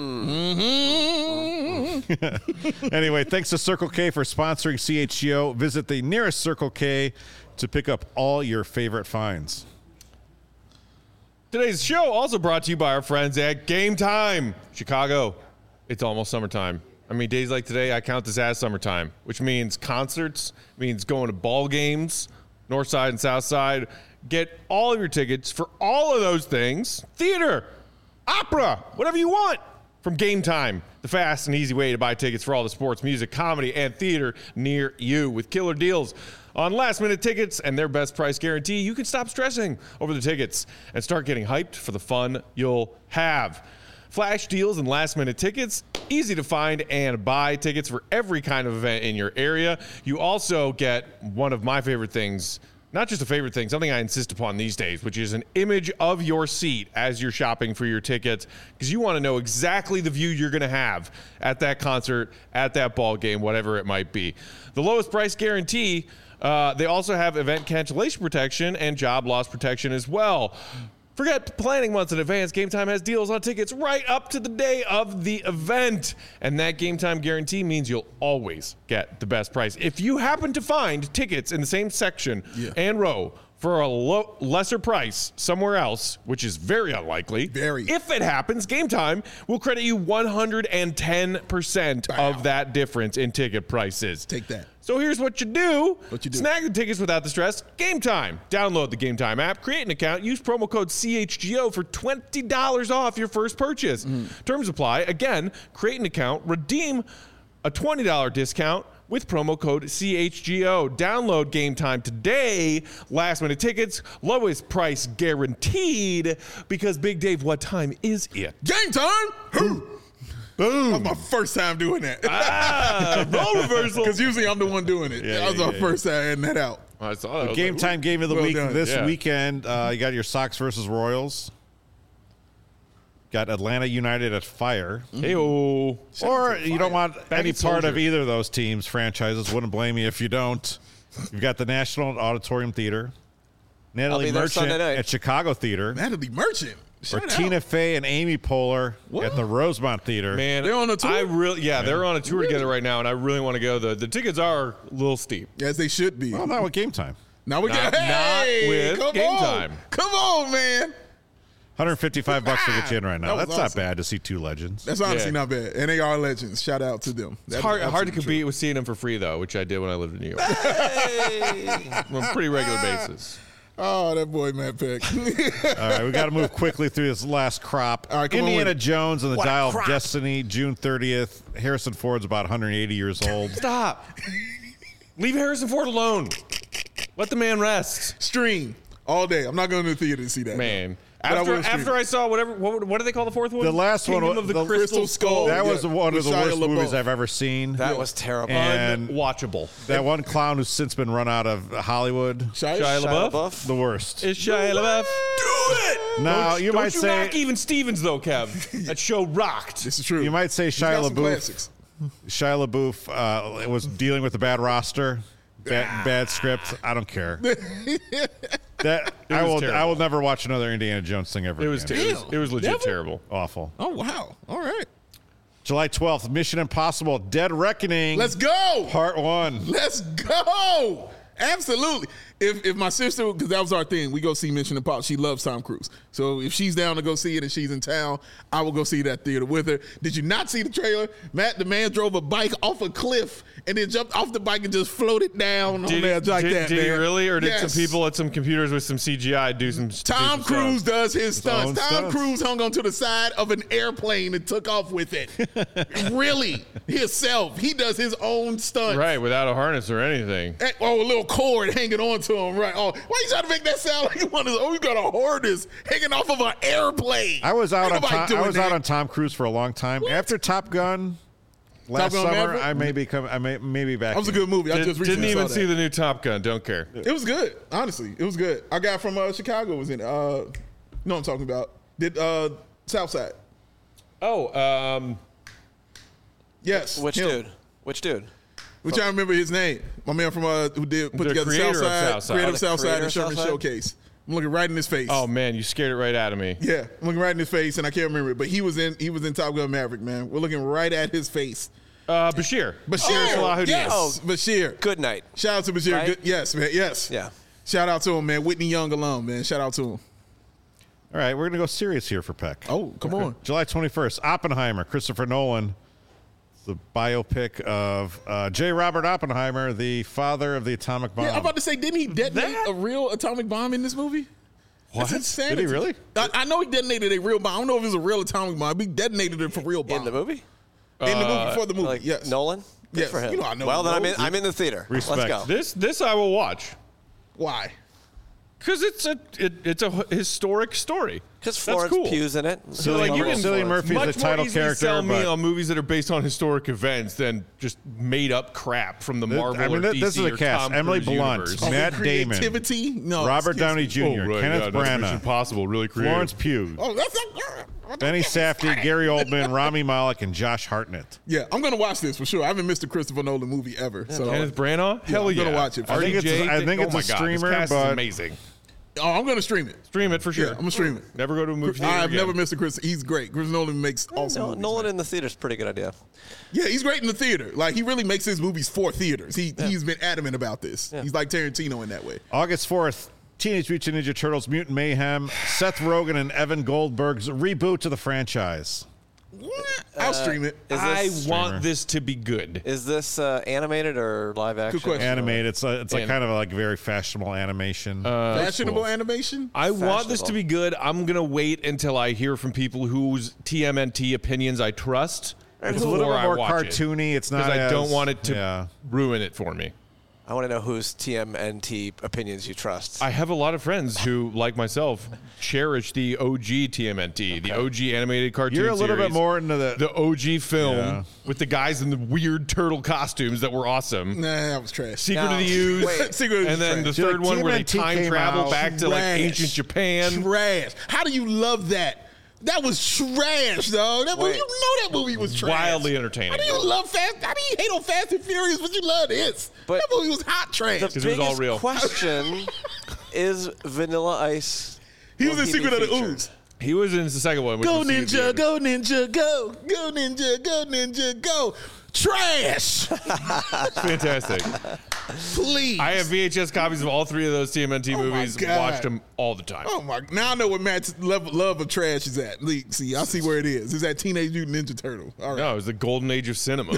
Mm-hmm. Anyway, thanks to Circle K for sponsoring C H G O. Visit the nearest Circle K to pick up all your favorite finds. Today's show also brought to you by our friends at Game Time Chicago. It's almost summertime. I mean, days like today, I count this as summertime, which means concerts, means going to ball games, north side and south side. Get all of your tickets for all of those things. Theater, opera, whatever you want from Game Time. The fast and easy way to buy tickets for all the sports, music, comedy, and theater near you. With killer deals on last-minute tickets and their best price guarantee, you can stop stressing over the tickets and start getting hyped for the fun you'll have. Flash deals and last-minute tickets, easy to find and buy tickets for every kind of event in your area. You also get one of my favorite things, not just a favorite thing, something I insist upon these days, which is an image of your seat as you're shopping for your tickets, because you want to know exactly the view you're going to have at that concert, at that ball game, whatever it might be. The lowest price guarantee, uh, they also have event cancellation protection and job loss protection as well. Forget planning months in advance. Game Time has deals on tickets right up to the day of the event. And that Game Time guarantee means you'll always get the best price. If you happen to find tickets in the same section Yeah. and row for a low, lesser price somewhere else, which is very unlikely, Very. if it happens, Game Time will credit you one hundred ten percent Wow. of that difference in ticket prices. Take that. So here's what you do. What you do? Snag the tickets without the stress. Game Time. Download the Game Time app, create an account, use promo code C H G O for twenty dollars off your first purchase. Mm. Terms apply. Again, create an account, redeem a twenty dollars discount with promo code C H G O. Download Game Time today. Last minute tickets, lowest price guaranteed. Because Big Dave, what time is it? Game time. Boom. That was my first time doing that. Ah, role reversal. Because usually I'm the one doing it. Yeah, that was yeah, my yeah, first time adding that out. I saw that. I was Game like, time game of the Well week done. this Yeah. weekend. Uh, you got your Sox versus Royals. Got Atlanta United at Fire. Hey-o. Or you don't want any at part of Soldier. either of those teams, franchises. Wouldn't blame you if you don't. You've got the National Auditorium Theater. Natalie be there Merchant Sunday night. at Chicago Theater. Natalie Merchant. Or Shout out. Tina Fey and Amy Poehler What? at the Rosemont Theater. Man, They're on a tour? I really, yeah, they're on a tour together right now, and I really want to go. The the tickets are a little steep. As they should be. Well, not with Game Time. Now we Not- got hey, not with come Game on. Time. Come on, man. one hundred fifty-five bucks to get you in right now. That was That's not awesome. bad to see two legends. That's honestly Yeah. not bad. And they are legends. Shout out to them. It's hard, hard to compete with seeing them for free, though, which I did when I lived in New York. On a pretty regular basis. Oh, that boy, Matt Peck. All right, we got to move quickly through this last crop. All right, come on Indiana with it. Jones and the What a Dial of crop. Destiny, June thirtieth. Harrison Ford's about one hundred eighty years old. Stop. Leave Harrison Ford alone. Let the man rest. Stream all day. I'm not going to the theater to see that. Man. But I After, will stream after it. I saw whatever, what, what do they call the fourth one? The last one Kingdom was- of the, the Crystal, Crystal Skull. Skull. That yeah, was one of with the Shia worst LaBeouf. movies I've ever seen. That was terrible. And Unwatchable. that one clown who's since been run out of Hollywood. Shia, Shia Shia LaBeouf? LaBeouf. The worst. Is Shia LaBeouf? Do it! Now, Don't- you don't might you say knock even Stevens, though, Kev. That show rocked. This is true. you might say He's got Shia some LaBeouf. classics. Shia LaBeouf uh, was dealing with a bad roster, bad, bad script. I don't care. That I was will. terrible. I will never watch another Indiana Jones thing ever. It was, again. ter- it was, it was legit Never? terrible. awful. Oh, wow. All right. July twelfth, Mission Impossible: Dead Reckoning. Let's go. Part one. Let's go. Absolutely. If if my sister, because that was our thing, we go see Mission Impossible. She loves Tom Cruise. So if she's down to go see it and she's in town, I will go see that theater with her. Did you not see the trailer? Matt, the man drove a bike off a cliff and then jumped off the bike and just floated down on Did, there like did, that, did he man. really? Or did Yes. some people at some computers with some C G I do some do Tom some Cruise stuff? does his own stunts. Tom stunts. Cruise hung onto the side of an airplane and took off with it. Really? Himself. He does his own stunts. Right, without a harness or anything. Eh, Oh, a little cord hanging on to him, right? Oh, why you trying to make that sound like you want to? Oh, you got a harness hanging off of an airplane. I was out Ain't on nobody Tom, I doing was that. out on Tom Cruise for a long time. After Top Gun last Gun summer, Maverick? I may become. I may maybe back. That was a in. good movie. I Did, just recently didn't even saw see that. the new Top Gun. Don't care. It was good. Honestly, it was good. I got from uh, Chicago. Was in. it. Uh, you know what I'm talking about? Did uh, Southside? Oh, um, Yes. Which him. dude? Which dude? Which I remember his name. My man from uh, who did put The together creator of Southside, Southside. creator Oh, of the Southside creator and of Sherman Southside? Showcase. I'm looking right in his face. oh man, you scared it right out of me. Yeah, I'm looking right in his face, and I can't remember it. But he was in he was in Top Gun Maverick, man. We're looking right at his face. Uh, Bashir. Bashir, Salahuddin. yes, Oh, Bashir. Good night. Shout out to Bashir. Right? Good, yes, man. Yes. Yeah. Shout out to him, man. Whitney Young alum, man. Shout out to him. All right, we're gonna go serious here for Peck. Oh, come on. July twenty-first, Oppenheimer, Christopher Nolan. The biopic of uh, J. Robert Oppenheimer, the father of the atomic bomb. Yeah, I'm about to say, didn't he detonate a real atomic bomb in this movie? What? That's insanity. Did he really? I, I know he detonated a real bomb. I don't know if it was a real atomic bomb. He detonated it for real bomb. In the movie? In the movie, for the movie, Like yes. Nolan? Good Yes. for him. You know I know well, then I'm in, Nolan. I'm in the theater. Respect. Let's go. This this I will watch Why? because it's a it, it's a historic story. Because That's Florence cool. Pugh's in it. So, like, you can- Cillian Murphy is Much the title more easily character. sell me but on movies that are based on historic events than just made up crap from the Marvel I mean, or th- D C this is a or cast. Tom Emily Cruise Blunt, universe. Oh, Matt Damon, creativity? No. Robert excuse Downey me. Junior, Oh, right, Kenneth yeah, that's Mission Branagh, Impossible, really creative. Florence Pugh, Oh, that's not. Benny Safdie, Gary Oldman, Rami Malek, and Josh Hartnett. Yeah, I'm gonna watch this for sure. I haven't missed a Christopher Nolan movie ever. So Kenneth Branagh? Hell I'm yeah. gonna watch it. I R D think it's a- J, I think oh it's a my God, streamer, this cast but- is amazing. oh, I'm gonna stream it. Stream it for sure. Yeah, I'm gonna stream it. Never go to a movie theater I've again. never missed a Chris. He's great. Chris Nolan makes awesome No, movies. Nolan man. in the theater is a pretty good idea. Yeah, he's great in the theater. Like he really makes his movies for theaters. He he's been adamant about this. Yeah. He's like Tarantino in that way. August fourth, Teenage Mutant Ninja Turtles Mutant Mayhem, Seth Rogen and Evan Goldberg's reboot to the franchise. I'll stream it. Is I this, want this to be good. is this uh, animated or live action? question. Animated. It's a, it's like And- kind of like very fashionable animation. Fashionable animation. I want this to Fashionable. be good. I'm gonna wait until I hear from people whose T M N T opinions I trust. it's a little before bit I more watch it. cartoony. It's not. Because I as- don't want it to Yeah. ruin it for me. I want to know whose T M N T opinions you trust. I have a lot of friends who, like myself, cherish the O G T M N T, the O G animated cartoon You're a little bit series, more into the. the O G film Yeah. with the guys in the weird turtle costumes that were awesome. Nah, that was trash. Secret No, of the Ooze, wait. Secret of the and then the Trash. See, like, third one where they T M N T time came travel out- back to like Trash. ancient Japan. Trash. How do you love that? That was trash, dog. That movie, Wait. you know that movie was trash. Wildly entertaining. How do you love Fast? How do you hate on Fast and Furious, but you love this? But- that movie was hot trash. the it was biggest all real. question is Vanilla Ice. he was will in be Secret of the featured? Ooze. He was in the second one. which Go was Secret of the ninja, Ooze. go ninja, go, go ninja, go ninja, go. Trash. Fantastic. Please. I have V H S copies of all three of those T M N T Oh my movies. God. Watched them all the time. Oh my! Now I know what Matt's level, love of trash is at. Le- See, I see where it is. It's at Teenage Mutant Ninja Turtle. All right. No, it was the golden age of cinema.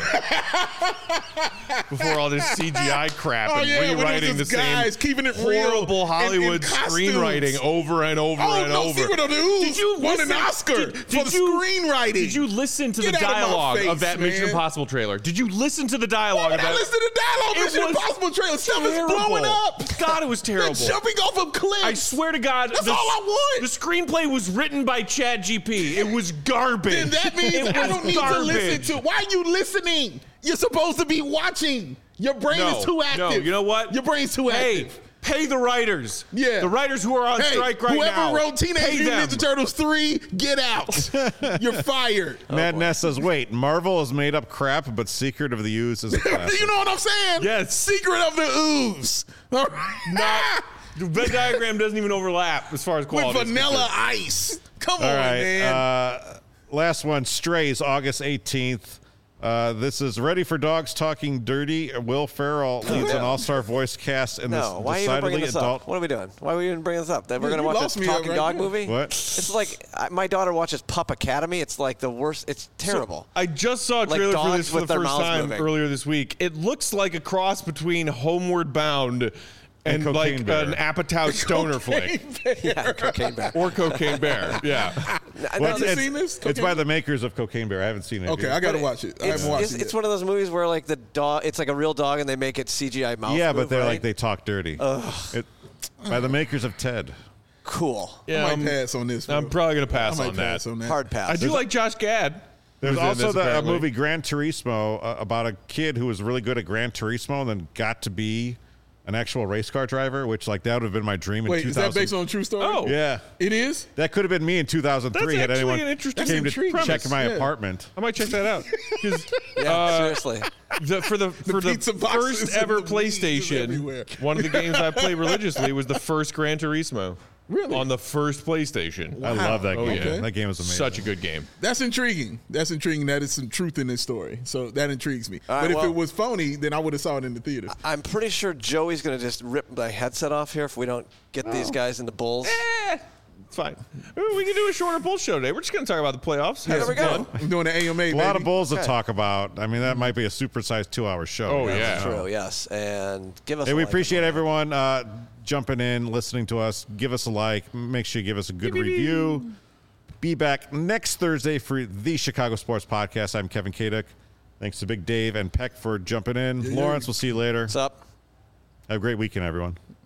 Before all this C G I crap Oh, and yeah, when it was rewriting the just guys same keeping it real horrible in- in Hollywood costumes. screenwriting over and over Oh and no! over. Secret of the Ooze Did you won listen- an Oscar did- for did the you- screenwriting. Did you listen to Get the out of my dialogue of, face, that Mission man. Impossible trailer? Did you listen to the dialogue Why of would I that? listen to the dialogue? It Mission was Impossible trailer. Stuff is terrible. blowing up. God, it was They're terrible. jumping off of cliffs. I swear to God, That's the, all I want. The screenplay was written by Chad G P. It was garbage. Then that means it I was don't need garbage. to listen to. Why are you listening? You're supposed to be watching. Your brain No, is too active. no, you know what? Your brain's too Hey, active. pay the writers. Yeah. The writers who are on Hey, strike right whoever now. wrote Teenage pay Mutant them. Ninja Turtles three, get out. You're fired. Mad Ness says, "Wait, Marvel has made up crap, but Secret of the Ooze is a classic." You know what I'm saying? Yes. Secret of the Ooze. All right. Not, the Venn diagram doesn't even overlap as far as quality. With is Vanilla concerned. Ice. Come All on, right. man. Uh, last one, Strays, August eighteenth. Uh, this is Ready for Dogs Talking Dirty. Will Ferrell leads an all-star voice cast in No, this why are you even bringing decidedly this adult. up? What are we doing? Why are we even bringing this up? That we're You- going to you watch lost a me talking right dog there. movie? What? It's like I- my daughter watches Pup Academy. It's like the worst. It's terrible. I just saw a Like trailer for dogs this for with the their first mouths time moving. earlier this week. It looks like a cross between Homeward Bound and, And like Cocaine Bear. an Apatow stoner flick. yeah, Cocaine Bear. Or Cocaine Bear. Yeah. I Well, know it's, you this- it's- seen this? it's Cocaine by Bear? the makers of Cocaine Bear. I haven't seen it. Okay, yet. I got to but watch it. I It's, haven't watched it's, it. it's yet. one of those movies where like the dog, it's like a real dog, and they make it C G I mouth. yeah, move, but they're right? like they talk dirty. It, by the makers of Ted. cool. Yeah, I might I'm, pass on this. I'm bro. probably going to I pass might on pass that. on that. Hard pass. I do like Josh Gad. There's who's in also this, the a apparently. movie Gran Turismo uh, about a kid who was really good at Gran Turismo and then got to be an actual race car driver, which like that would have been my dream in Wait, two is thousand. that based on a true story? Oh. Yeah, It is? that could have been me in two thousand three That's had actually anyone an interesting came to intriguing check premise. my Yeah. apartment. I might check that out. 'Cause, Yeah, uh, seriously. the, for the for the, pizza boxes first and ever the weed is PlayStation, everywhere. one of the games I played religiously was the first Gran Turismo. Really? On the first PlayStation. I love that Oh, game. yeah. That game was amazing. Such a good game. That's intriguing. That's intriguing. That is some truth in this story. So that intrigues me. All right, but if well- it was phony, then I would have saw it in the theater. I'm pretty sure Joey's going to just rip my headset off here if we don't get these guys in the Bulls. Eh, it's fine. Ooh, we can do a shorter bull show today. We're just going to talk about the playoffs. There Have we some go. fun. I'm doing the A M A, A lot of baby. bulls to Okay. talk about. I mean, that might be a supersized two-hour show. Oh, That's yeah. true. True, yes. And give us Hey, a we like. appreciate everyone uh, jumping in, listening to us. Give us a like. Make sure you give us a good review. Be back next Thursday for the Chicago Sports Podcast. I'm Kevin Kaduk. Thanks to Big Dave and Peck for jumping in. Lawrence, we'll see you later. What's up? Have a great weekend, everyone.